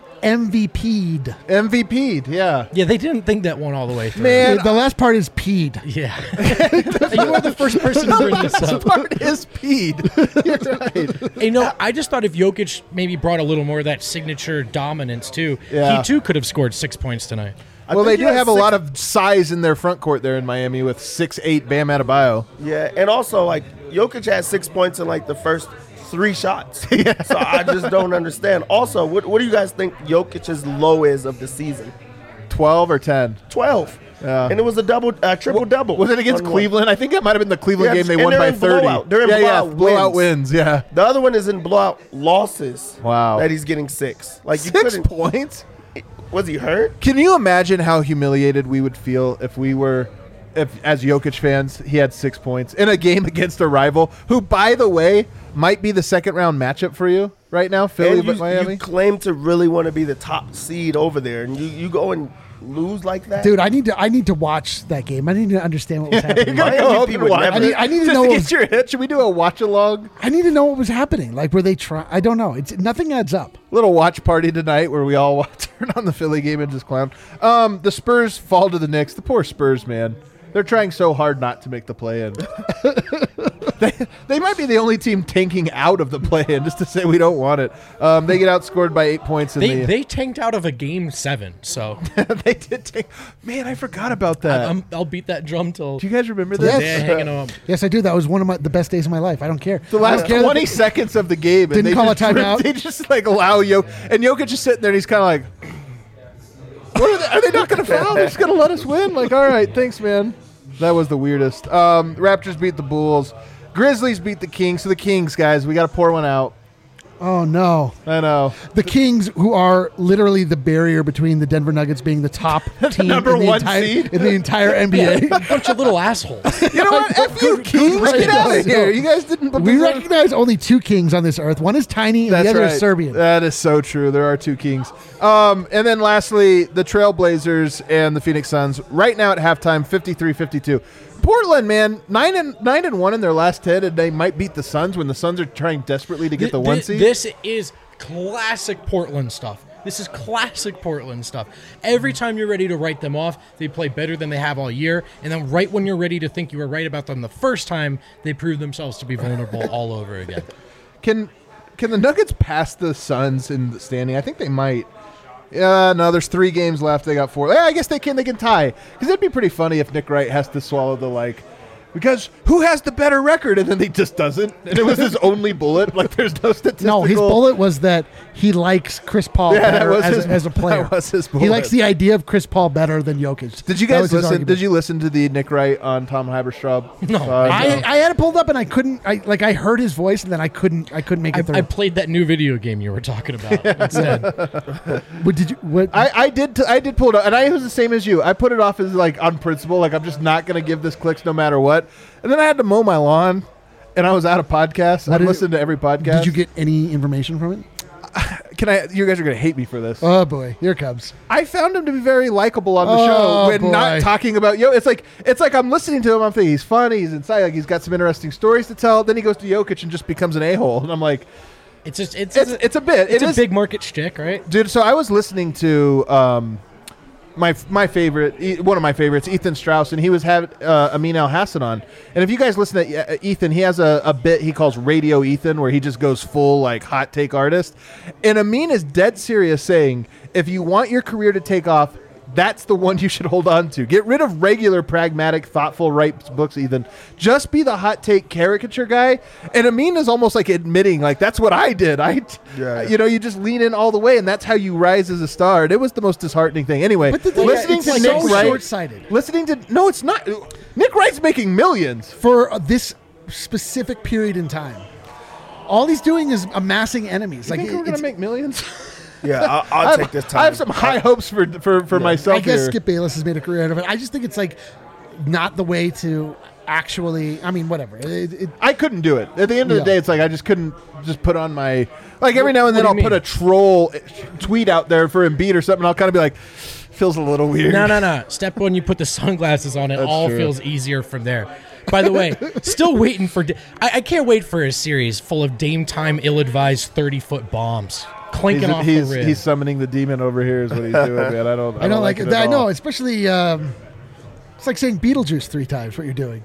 B: MVP'd, yeah.
E: Yeah, they didn't think that one all the way through.
B: Man,
C: The last part is peed.
E: Yeah. You are the first person to bring this up.
B: part is peed. You're right.
E: You know, I just thought if Jokic maybe brought a little more of that signature dominance too,
B: Yeah.
E: he too could have scored 6 points tonight.
B: Well, they do have a lot of size in their front court there in Miami with 6'8" Bam Adebayo.
D: Yeah, and also like Jokic had 6 points in like the first 3 shots. So I just don't understand. Also, what do you guys think Jokic's low is of the season?
B: 12 or 10?
D: 12.
B: Yeah.
D: And it was a triple double.
B: Was it against
D: on one.
B: Cleveland? I think that might have been the Cleveland
D: Yes,
B: game they
D: and
B: won
D: they're
B: by
D: in
B: 30.
D: blowout. They're in blowout
B: blowout
D: wins.
B: wins. Yeah.
D: The other one is in blowout losses.
B: Wow.
D: That he's getting 6. Like you
B: 6
D: couldn't.
B: points?
D: Was he hurt?
B: Can you imagine how humiliated we would feel if as Jokic fans, he had 6 points in a game against a rival who, by the way, might be the second round matchup for you right now, Philly
D: And
B: but Miami?
D: you claim to really want to be the top seed over there, and you go and lose like that,
C: Dude, I need to watch that game. I need to understand what was happening.
B: You're gonna go
D: Miami
B: home
D: people
B: and watch
D: would never-
B: it
C: I need to
B: just
C: know
B: to
C: what
B: get your hit. Should we do a watch along?
C: I need to know what was happening. Like, were they trying? I don't know. It's nothing adds up.
B: Little watch party tonight where we all turn on the Philly game and just clown. The Spurs fall to the Knicks. The poor Spurs, man. They're trying so hard not to make the play-in. They might be the only team tanking out of the play-in just to say we don't want it. They get outscored by 8 points.
E: They tanked out of a game 7, so
B: They did tank. Man, I forgot about that.
E: I'll beat that drum till
B: Do you guys remember
E: the
B: this?
E: day hanging up.
C: Yes, I do. That was one of the best days of my life. I don't care.
B: The
C: I
B: last
C: don't care
B: 20 seconds of the game. And
C: Didn't
B: they
C: call
B: just
C: a timeout.
B: They just like allow Jokic. And Jokic just sitting there and he's kind of like, are they not going to foul? They're just going to let us win? Like, all right, thanks, man. That was the weirdest. Raptors beat the Bulls. Grizzlies beat the Kings. So the Kings, guys, we got to pour one out.
C: Oh no!
B: I know.
C: The Kings, who are literally the barrier between the Denver Nuggets being the top team
B: number
C: in the
B: one
C: entire,
B: seed.
C: in the entire NBA.
E: Bunch of little assholes.
B: You know what? F you, Kings.
C: right.
B: Get out of
C: No.
B: here. You guys didn't put
C: We
B: this on-
C: recognize only 2 kings on this earth. One is tiny, and
B: That's
C: the other
B: right.
C: is Serbian.
B: That is so true. There are 2 Kings. And then lastly, the Trailblazers and the Phoenix Suns. Right now at halftime, 53-52. Portland, man, 9-1 in their last 10, and they might beat the Suns when the Suns are trying desperately to get the 1 seed.
E: This is classic Portland stuff. This is classic Portland stuff. Every time you're ready to write them off, they play better than they have all year. And then right when you're ready to think you were right about them the first time, they prove themselves to be vulnerable all over again.
B: Can the Nuggets pass the Suns in the standing? I think they might. No, there's 3 games left. They got 4. Yeah, I guess they can tie. Because it'd be pretty funny if Nick Wright has to swallow the because who has the better record? And then he just doesn't. And it was his only bullet. Like there's no statistical.
C: No, his bullet was that he likes Chris Paul
B: Yeah, that
C: better
B: was
C: as a player.
B: that was his
C: He
B: bullet.
C: likes the idea of Chris Paul better than Jokic.
B: Did you
C: That
B: guys
C: was his
B: listen?
C: argument.
B: Did you listen to the Nick Wright on Tom Haberstraub?
E: No.
C: I had it pulled up and I couldn't. I heard his voice and then I couldn't make it through.
E: I played that new video game you were talking about instead.
C: What did you? What?
B: I did pull it up, and I was the same as you. I put it off as on principle, like I'm just not going to give this clicks no matter what. And then I had to mow my lawn, and I was out of podcasts. I listened to every podcast.
C: Did you get any information from it?
B: You guys are going to hate me for this.
C: Oh boy, here it comes.
B: I found him to be very likable on the
C: Oh,
B: show when
C: boy.
B: not talking about It's like I'm listening to him. I'm thinking he's funny, he's inside, like he's got some interesting stories to tell. Then he goes to Jokic and just becomes an a-hole, and I'm like,
E: It's a bit.
B: It
E: It's a
B: is-
E: big market shtick, right?
B: dude. So I was listening to my favorite, one of my favorites, Ethan Strauss, and he was having Amin Al Hassan on. And if you guys listen to Ethan, he has a bit he calls Radio Ethan, where he just goes full hot take artist. And Amin is dead serious, saying if you want your career to take off, that's the one you should hold on to. Get rid of regular, pragmatic, thoughtful, right books, Ethan. Just be the hot take caricature guy. And Amin is almost admitting, that's what I did. You just lean in all the way, and that's how you rise as a star. And it was the most disheartening thing. Anyway,
C: But the thing
B: listening
C: is,
B: to
C: it's
B: Nick
C: so
B: Wright,
C: short-sighted.
B: no, it's not. Nick Wright's making millions.
C: For this specific period in time, all he's doing is amassing enemies.
B: You think we're going to make millions?
D: Yeah, I'll take this time.
B: I have some high hopes for myself
C: I guess
B: here.
C: Skip Bayless has made a career out of it. I just think it's not the way to. actually. I mean, whatever.
B: I couldn't do it. At the end of the day, it's like I just couldn't just put on my every now and then
E: What do
B: I'll
E: you
B: put a troll tweet out there for Embiid or something. I'll kind of be like, feels a little weird.
E: No. Step one, you put the sunglasses on. It all
B: true.
E: feels easier from there. By the way, still waiting for. I can't wait for a series full of Dame time, ill-advised 30-foot bombs clinking off the rim.
B: He's summoning the demon over here. Is what he's doing, man. I don't like it.
C: I know, especially. It's like saying Beetlejuice 3 times. What you're doing.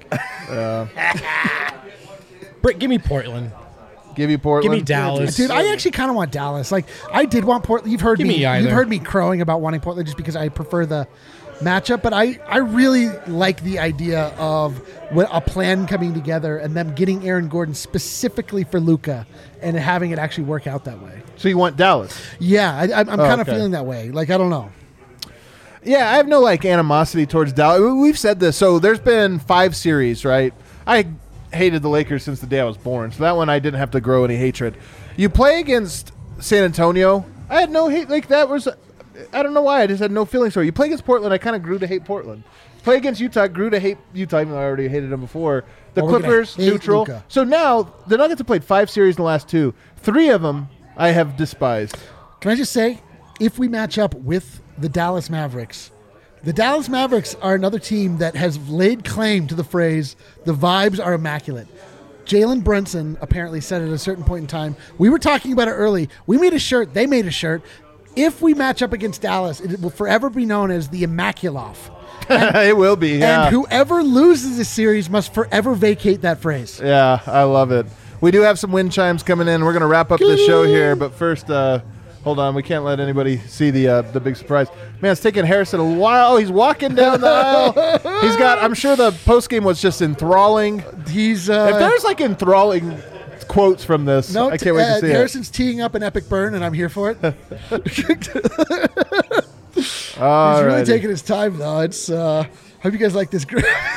E: Britt, give me Portland.
B: Give you Portland.
E: Give me Dallas.
C: Dude, I actually kind of want Dallas. Like, I did want Portland. You've heard
E: Give me either.
C: You've heard me crowing about wanting Portland just because I prefer the matchup. But I really like the idea of a plan coming together and them getting Aaron Gordon specifically for Luka and having it actually work out that way.
B: So you want Dallas?
C: Yeah, I'm kind of feeling that way. Like, I don't know.
B: Yeah, I have no animosity towards Dallas. We've said this. So there's been 5 series, right? I hated the Lakers since the day I was born, so that one I didn't have to grow any hatred. You play against San Antonio, I had no hate. Like, that was, I don't know why, I just had no feelings for it. You play against Portland, I kind of grew to hate Portland. Play against Utah, grew to hate Utah, even though I already hated them before. The Clippers, neutral.
C: Luka.
B: So now, the Nuggets have played 5 series in the last 2. 3 of them I have despised.
C: Can I just say, if we match up with the Dallas Mavericks are another team that has laid claim to the phrase, the vibes are immaculate. Jalen Brunson apparently said at a certain point in time, we were talking about it early, we made a shirt, they made a shirt. If we match up against Dallas, it will forever be known as the Immaculoff.
B: It will be, yeah.
C: And whoever loses this series must forever vacate that phrase.
B: Yeah, I love it. We do have some wind chimes coming in. We're going to wrap up the show here, but first, hold on. We can't let anybody see the big surprise. Man, it's taking Harrison a while. He's walking down the aisle. He's got, I'm sure the postgame was just enthralling.
C: He's
B: if there's enthralling quotes from this, I can't wait to see
C: Harrison's teeing up an epic burn, and I'm here for it. He's really taking his time, though. It's hope you guys like this.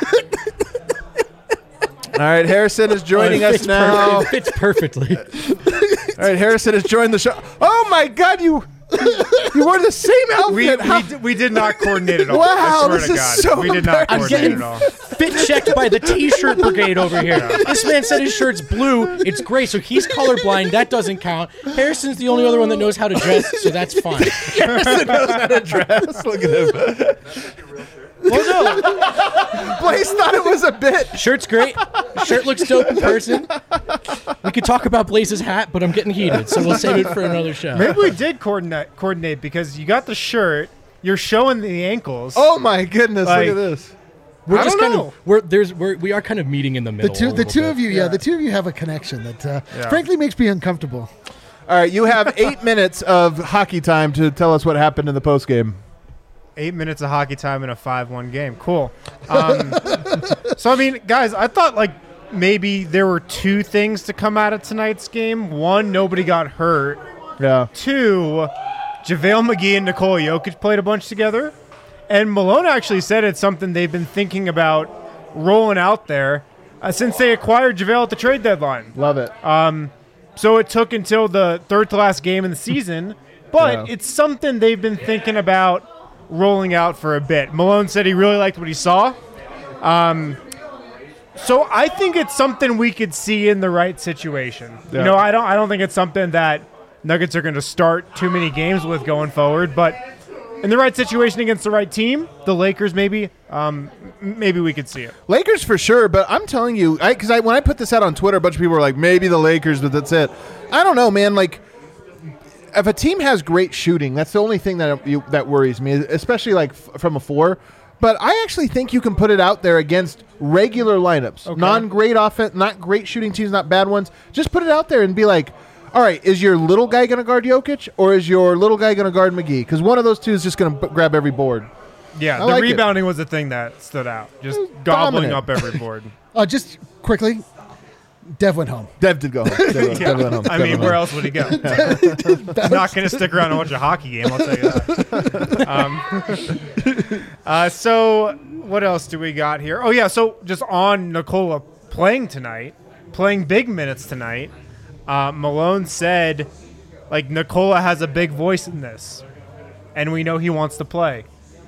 B: All right, Harrison is joining us now.
E: It fits perfectly.
B: All right, Harrison has joined the show. Oh my God, you wore the same outfit.
A: We did not coordinate at all.
B: Wow,
A: I swear
B: this
A: to
B: is
A: God.
B: so
A: We did not
E: I'm
A: coordinate
E: getting
A: at all.
E: fit checked by the T-shirt brigade over here. This man said his shirt's blue. It's gray, so he's colorblind. That doesn't count. Harrison's the only other one that knows how to dress, so that's fine.
B: Harrison knows how to dress. Look at him.
E: Well, no.
B: Blaze thought it was a bit.
E: Shirt's great. Shirt looks dope in person. We could talk about Blaze's hat, but I'm getting heated, so we'll save it for another show.
G: Maybe we did coordinate because you got the shirt, you're showing the ankles.
B: Oh my goodness! Look at this.
E: We're just kind of we are kind of meeting in the middle.
C: The two of you have a connection that frankly makes me uncomfortable.
B: All right, you have 8 minutes of hockey time to tell us what happened in the postgame.
G: 8 minutes of hockey time in a 5-1 game. Cool. So, I mean, guys, I thought, maybe there were 2 things to come out of tonight's game. 1, nobody got hurt.
B: Yeah.
G: 2, JaVale McGee and Nikola Jokic played a bunch together. And Malone actually said it's something they've been thinking about rolling out there since they acquired JaVale at the trade deadline.
B: Love it.
G: So it took until the third to last game in the season, but it's something they've been thinking about rolling out for a bit. Malone said he really liked what he saw. So I think it's something we could see in the right situation.
B: Yeah.
G: I don't think it's something that Nuggets are going to start too many games with going forward, but in the right situation against the right team, the Lakers maybe we could see it.
B: Lakers for sure, but I'm telling you, because when I put this out on Twitter, a bunch of people were like, maybe the Lakers, but that's it. I don't know, man. If a team has great shooting, that's the only thing that worries me, especially from a 4. But I actually think you can put it out there against regular lineups, non-great offense, not great shooting teams, not bad ones. Just put it out there and be like, all right, is your little guy going to guard Jokic or is your little guy going to guard McGee? Because one of those two is just going to grab every board.
G: Yeah, the rebounding was the thing that stood out. Just gobbling up every board.
C: Just quickly, Dev went home.
B: Dev did go home. Dev went home.
G: I mean, where else would he go? He's not going to stick around and watch a hockey game, I'll tell you that. So what else do we got here? Oh, yeah, so just on Nikola playing big minutes tonight, Malone said, Nikola has a big voice in this, and we know he wants to play.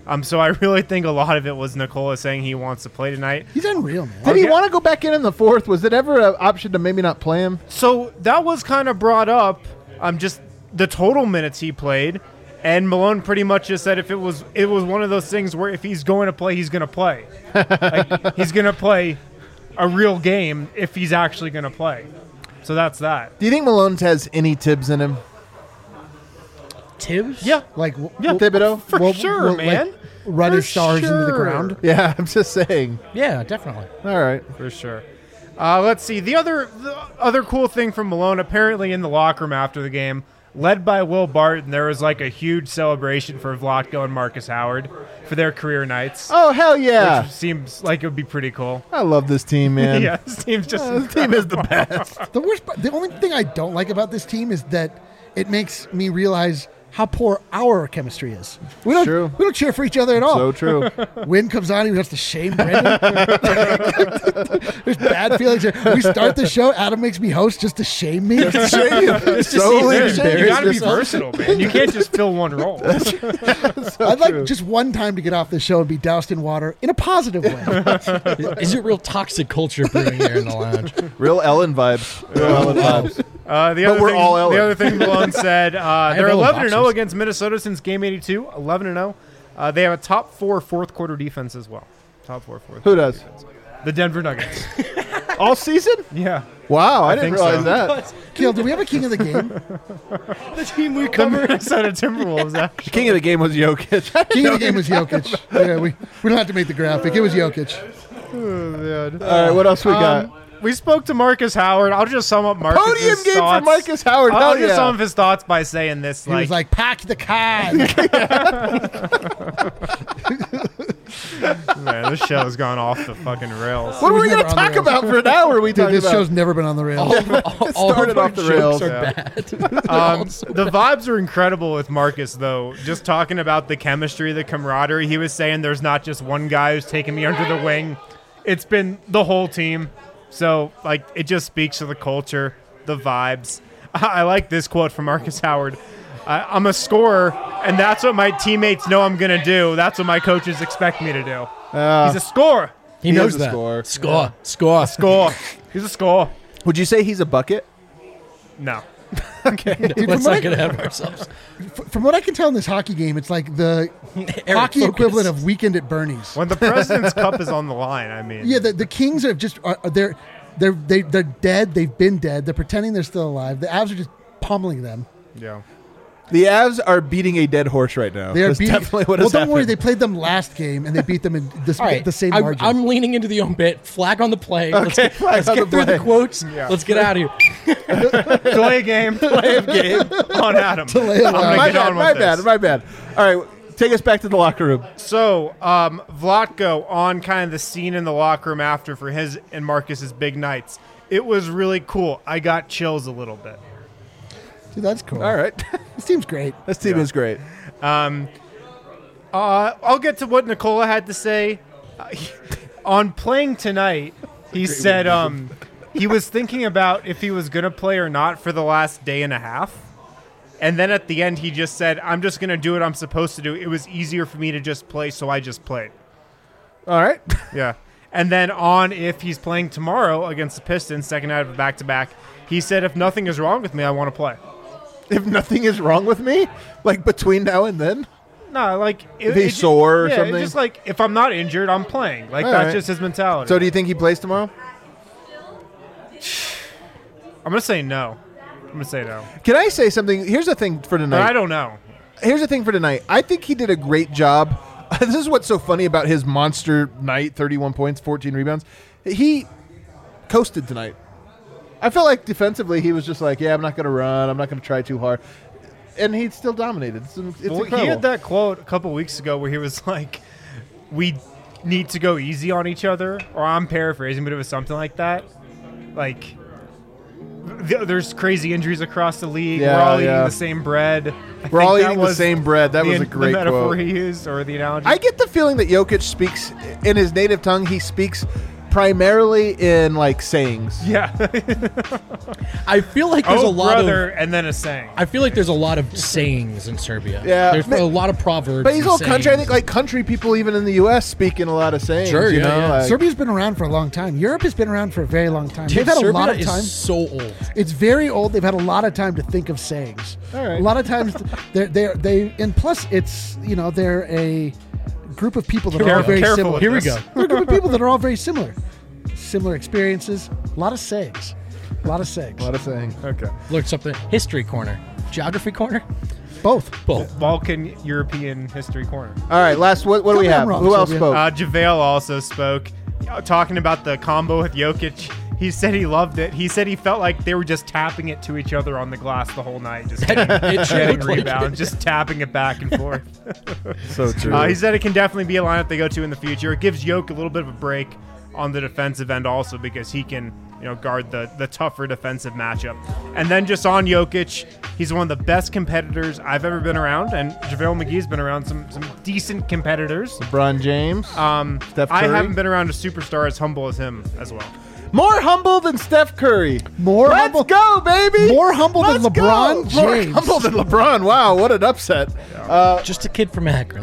G: So I really think a lot of it was Nikola saying he wants to play tonight.
C: He's unreal, man.
B: Did he want to go back in the fourth? Was it ever an option to maybe not play him?
G: So that was kind of brought up. Just the total minutes he played, and Malone pretty much just said it was one of those things where if he's going to play, he's going to play. Like, he's going to play a real game if he's actually going to play. So that's that.
B: Do you think Malone has any Tibbs in him?
C: Tibbs?
G: Yeah.
C: Like
B: Thibodeau?
G: For sure, man.
C: Like, run his stars into the ground.
B: Yeah, I'm just saying.
E: Yeah, definitely.
B: All right.
G: For sure. Let's see. The other cool thing from Malone, apparently in the locker room after the game, led by Will Barton, there was like a huge celebration for Vlatko and Marcus Howard for their career nights.
B: Oh, hell yeah.
G: Which seems like it would be pretty cool.
B: I love this team, man.
G: Yeah, this team's just
B: This team is the best.
C: The only thing I don't like about this team is that it makes me realize how poor our chemistry is. We don't cheer for each other at all.
B: So true.
C: Win comes on, he has to shame Brendan. There's bad feelings here. We start the show, Adam makes me host just to shame me.
B: Just to shame you. Solely
G: you
B: embarrass
G: got to be
B: yourself.
G: versatile, man. You can't just fill one role.
C: I'd like just one time to get off the show and be doused in water in a positive way.
E: Is it real toxic culture brewing here in the lounge?
B: Real Ellen vibes.
G: The other thing Malone said, they're 11-0 against Minnesota since game 82. 11-0. They have a top 4 fourth quarter defense as well. Top 4 fourth.
B: Who does?
G: Defense. The Denver Nuggets.
B: All season?
G: Yeah.
B: Wow, I didn't
G: think
B: realize
G: so.
B: that.
C: Kiel, do we have a king of the game?
E: The team we
G: The
E: cover.
G: Minnesota Timberwolves, actually.
B: King of the game was Jokic.
C: King of the game was Jokic. Yeah, we don't have to make the graphic. It was Jokic.
B: All right, what else we got?
G: We spoke to Marcus Howard. I'll just sum up Marcus's
B: Podium game
G: thoughts.
B: for Marcus Howard.
G: I'll
B: Hell
G: just
B: yeah.
G: sum up his thoughts by saying this.
C: He was like, pack the can.
G: Man, this show has gone off the fucking rails.
B: What were we
C: never
B: going to
C: on the
B: talk
C: rails.
B: about for an hour? We
C: Dude,
B: talked
C: this
B: about
C: show's never been on the rails.
E: All
B: started
E: of our
B: off the
E: jokes
B: rails.
E: are
B: Yeah.
E: bad.
G: The vibes are incredible with Marcus, though. Just talking about the chemistry, the camaraderie. He was saying there's not just one guy who's taking me under the wing. It's been the whole team. So, like, it just speaks to the culture, the vibes. I like this quote from Marcus Howard. I'm a scorer, and that's what my teammates know I'm going to do. That's what my coaches expect me to do. He's a scorer.
E: He knows
B: is a
E: that.
B: scorer.
E: Score.
G: Score. He's a scorer.
B: Would you say he's a bucket?
G: No.
C: Dude,
E: Let's not get ahead of ourselves.
C: from what I can tell in this hockey game, it's like the hockey
E: focus.
C: equivalent of Weekend at Bernie's.
G: When the President's Cup is on the line, I mean.
C: Yeah, the Kings are just they're dead. They've been dead. They're pretending they're still alive. The Avs are just pummeling them.
G: Yeah.
B: The Avs are beating a dead horse right now.
C: They are
B: That's
C: beating.
B: definitely what
C: well,
B: has
C: don't worry.
B: happened.
C: They played them last game and they beat them in
E: All right,
C: the same margin.
E: I'm leaning into the own bit. Flag on the play.
B: Okay,
E: let's get through the quotes.
G: Yeah.
E: Let's get out of here.
G: Delay a game. Delay a game on Adam.
C: Delay a
G: I'm gonna
C: game.
B: My
G: get on
B: bad,
G: with this.
B: my bad. All right, take us back to the locker room.
G: So, Vlatko on kind of the scene in the locker room after for his and Marcus's big nights. It was really cool. I got chills a little bit.
C: Dude, that's cool.
B: All right.
C: This team's great.
B: This team is great.
G: I'll get to what Nikola had to say. On playing tonight, he said he was thinking about if he was going to play or not for the last day and a half. And then at the end, he just said, I'm just going to do what I'm supposed to do. It was easier for me to just play, so I just played.
B: All right.
G: Yeah. And then on if he's playing tomorrow against the Pistons, second night of a back-to-back, he said, if nothing is wrong with me, I want to play.
B: If nothing is wrong with me, like between now and then,
G: No, like
B: if he's sore or
G: yeah,
B: something.
G: it's just like if I'm not injured, I'm playing. Like
B: All
G: that's
B: right.
G: just his mentality.
B: So do you think he plays tomorrow?
G: I'm gonna say no.
B: Can I say something? Here's the thing for
G: But
B: tonight.
G: I don't know.
B: Here's the thing for tonight. I think he did a great job. This is what's so funny about his monster night, 31 points, 14 rebounds. He coasted tonight. I felt like defensively he was just like, yeah, I'm not going to run. I'm not going to try too hard. And he still dominated. It's incredible.
G: He had that quote a couple weeks ago where he was like, we need to go easy on each other. Or I'm paraphrasing, but it was something like that. Like, there's crazy injuries across the league.
B: Yeah,
G: We're all eating
B: yeah.
G: the same bread.
B: We're all eating the same bread. That was a great
G: the metaphor
B: quote.
G: he used, or the analogy.
B: I get the feeling that Jokic speaks in his native tongue. He speaks primarily in like sayings.
G: Yeah.
E: I feel like there's a lot
G: brother,
E: of,
G: and then a saying.
E: I feel like there's a lot of sayings in Serbia.
B: Yeah.
E: There's a lot of proverbs.
B: But he's
E: and
B: all country. I
E: sayings.
B: think like country people, even in the U.S., speak in a lot of sayings.
E: Sure,
B: you
E: yeah,
B: know?
E: yeah.
B: Like,
C: Serbia's been around for a long time. Europe has been around for a very long time.
E: Dude,
C: They've had
E: Serbia
C: a lot of
E: is
C: time.
E: so old.
C: It's very old. They've had a lot of time to think of sayings.
B: All right.
C: A lot of times, and plus it's they're a group of people that are all very
G: Careful
C: similar.
G: with
E: Here we
G: this.
E: go.
C: They're a group of people that are all very similar experiences. A lot of sayings. A lot of sayings.
B: a lot of sayings.
G: Okay.
E: Learn something. History corner. Geography corner.
C: Both.
G: Balkan European History Corner.
B: All right, last. What do
C: Tell
B: we
C: me I'm
B: have?
C: wrong,
B: Who else
C: Sylvia.
B: spoke?
G: JaVale also spoke, talking about the combo with Jokic. He said he loved it. He said he felt like they were just tapping it to each other on the glass the whole night, just getting rebounds, just tapping it back and forth.
B: So true.
G: He said it can definitely be a lineup they go to in the future. It gives Jokic a little bit of a break on the defensive end also because he can guard the tougher defensive matchup. And then just on Jokic, he's one of the best competitors I've ever been around, and JaVale McGee's been around some decent competitors.
B: LeBron James. Steph Curry.
G: I haven't been around a superstar as humble as him as well.
B: More humble than Steph Curry.
C: Let's
B: humble. Go, baby.
C: More humble than
B: Let's
C: LeBron
B: go.
C: James.
B: More humble than LeBron. Wow, what an upset.
E: Just a kid from Akron.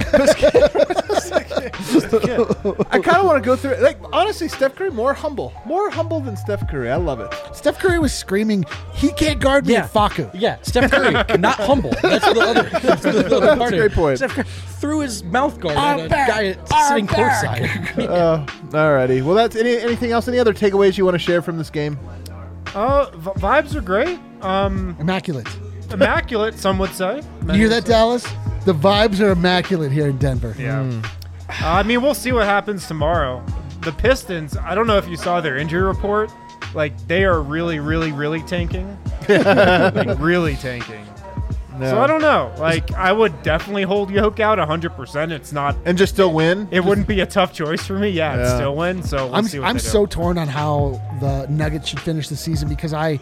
B: I kind of want to go through it. Like, honestly, Steph Curry, more humble than Steph Curry. I love it.
C: Steph Curry was screaming, "He can't guard me at Facu."
E: Yeah, Steph Curry, not humble. That's the other, that's the other part
B: a
E: of
B: great
E: it.
B: point.
E: Steph Curry threw his mouth guard
C: I'm
E: at a
C: back.
E: guy sitting courtside.
B: Alrighty. Well, that's anything else? Any other takeaways you want to share from this game?
G: Vibes are great.
C: Immaculate.
G: Immaculate, some would say.
C: You hear that, Dallas? The vibes are immaculate here in Denver.
G: Yeah. I mean, we'll see what happens tomorrow. The Pistons, I don't know if you saw their injury report. Like, they are really, really, really tanking. Like, really tanking.
B: No.
G: So I don't know. Like, I would definitely hold Jokic out 100%. It's not.
B: And just still win?
G: It wouldn't be a tough choice for me. Yeah, it's
B: Yeah.
G: still win. So we'll see what
C: I'm
G: they do.
C: so torn on how the Nuggets should finish the season because I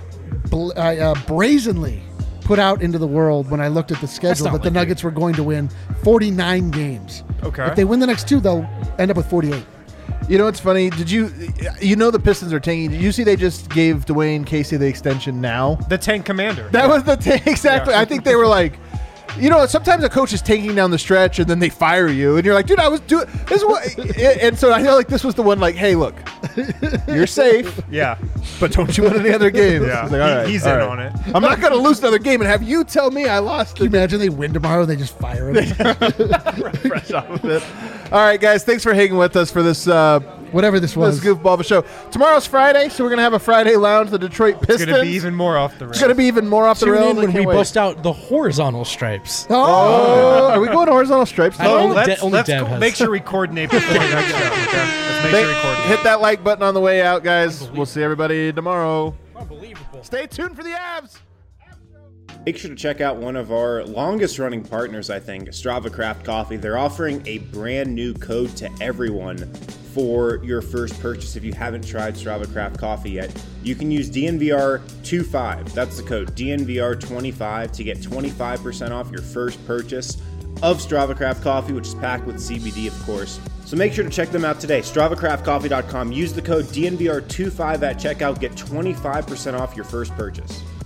C: brazenly put out into the world when I looked at the schedule
E: not
C: that the
E: like
C: Nuggets were going to win 49 games.
G: Okay.
C: If they win the next two, they'll end up with 48.
B: You know what's funny? The Pistons are tanking. Did you see they just gave Dwayne Casey the extension now?
G: The tank commander.
B: That was the tank. Exactly.
G: Yeah.
B: I think they were like, sometimes a coach is tanking down the stretch and then they fire you and you're like, dude, I was doing this. And so I feel like this was the one like, hey, look, you're safe,
G: Yeah.
B: but don't you win any other games.
G: Yeah.
B: It's like, all right,
G: He's
B: all
G: in
B: right.
G: on it.
B: I'm not going to lose another game and have you tell me I lost.
C: Can you imagine they win tomorrow and they just fire him?
B: Fresh off of it. All right, guys, thanks for hanging with us for this
C: Whatever this was.
B: goofball of a show. Tomorrow's Friday, so we're going to have a Friday lounge, the Detroit Pistons.
G: It's going to be even more off the rails.
B: It's going to be even more off the
E: Tune
B: rails.
E: in
B: I
E: when
B: can't
E: we
B: wait.
E: bust out the horizontal stripes.
B: Oh, are we going horizontal stripes?
E: I don't know.
G: Let's
E: Only Dev has.
G: make sure we coordinate before the next show. Okay? Let's make sure we coordinate.
B: Hit that like button on the way out, guys. We'll see everybody tomorrow.
E: Unbelievable.
B: Stay tuned for the abs.
A: Make sure to check out one of our longest running partners, I think, Strava Craft Coffee. They're offering a brand new code to everyone for your first purchase. If you haven't tried Strava Craft Coffee yet, you can use DNVR25. That's the code, DNVR25, to get 25% off your first purchase of Strava Craft Coffee, which is packed with CBD, of course. So make sure to check them out today. StravaCraftCoffee.com. Use the code DNVR25 at checkout. Get 25% off your first purchase.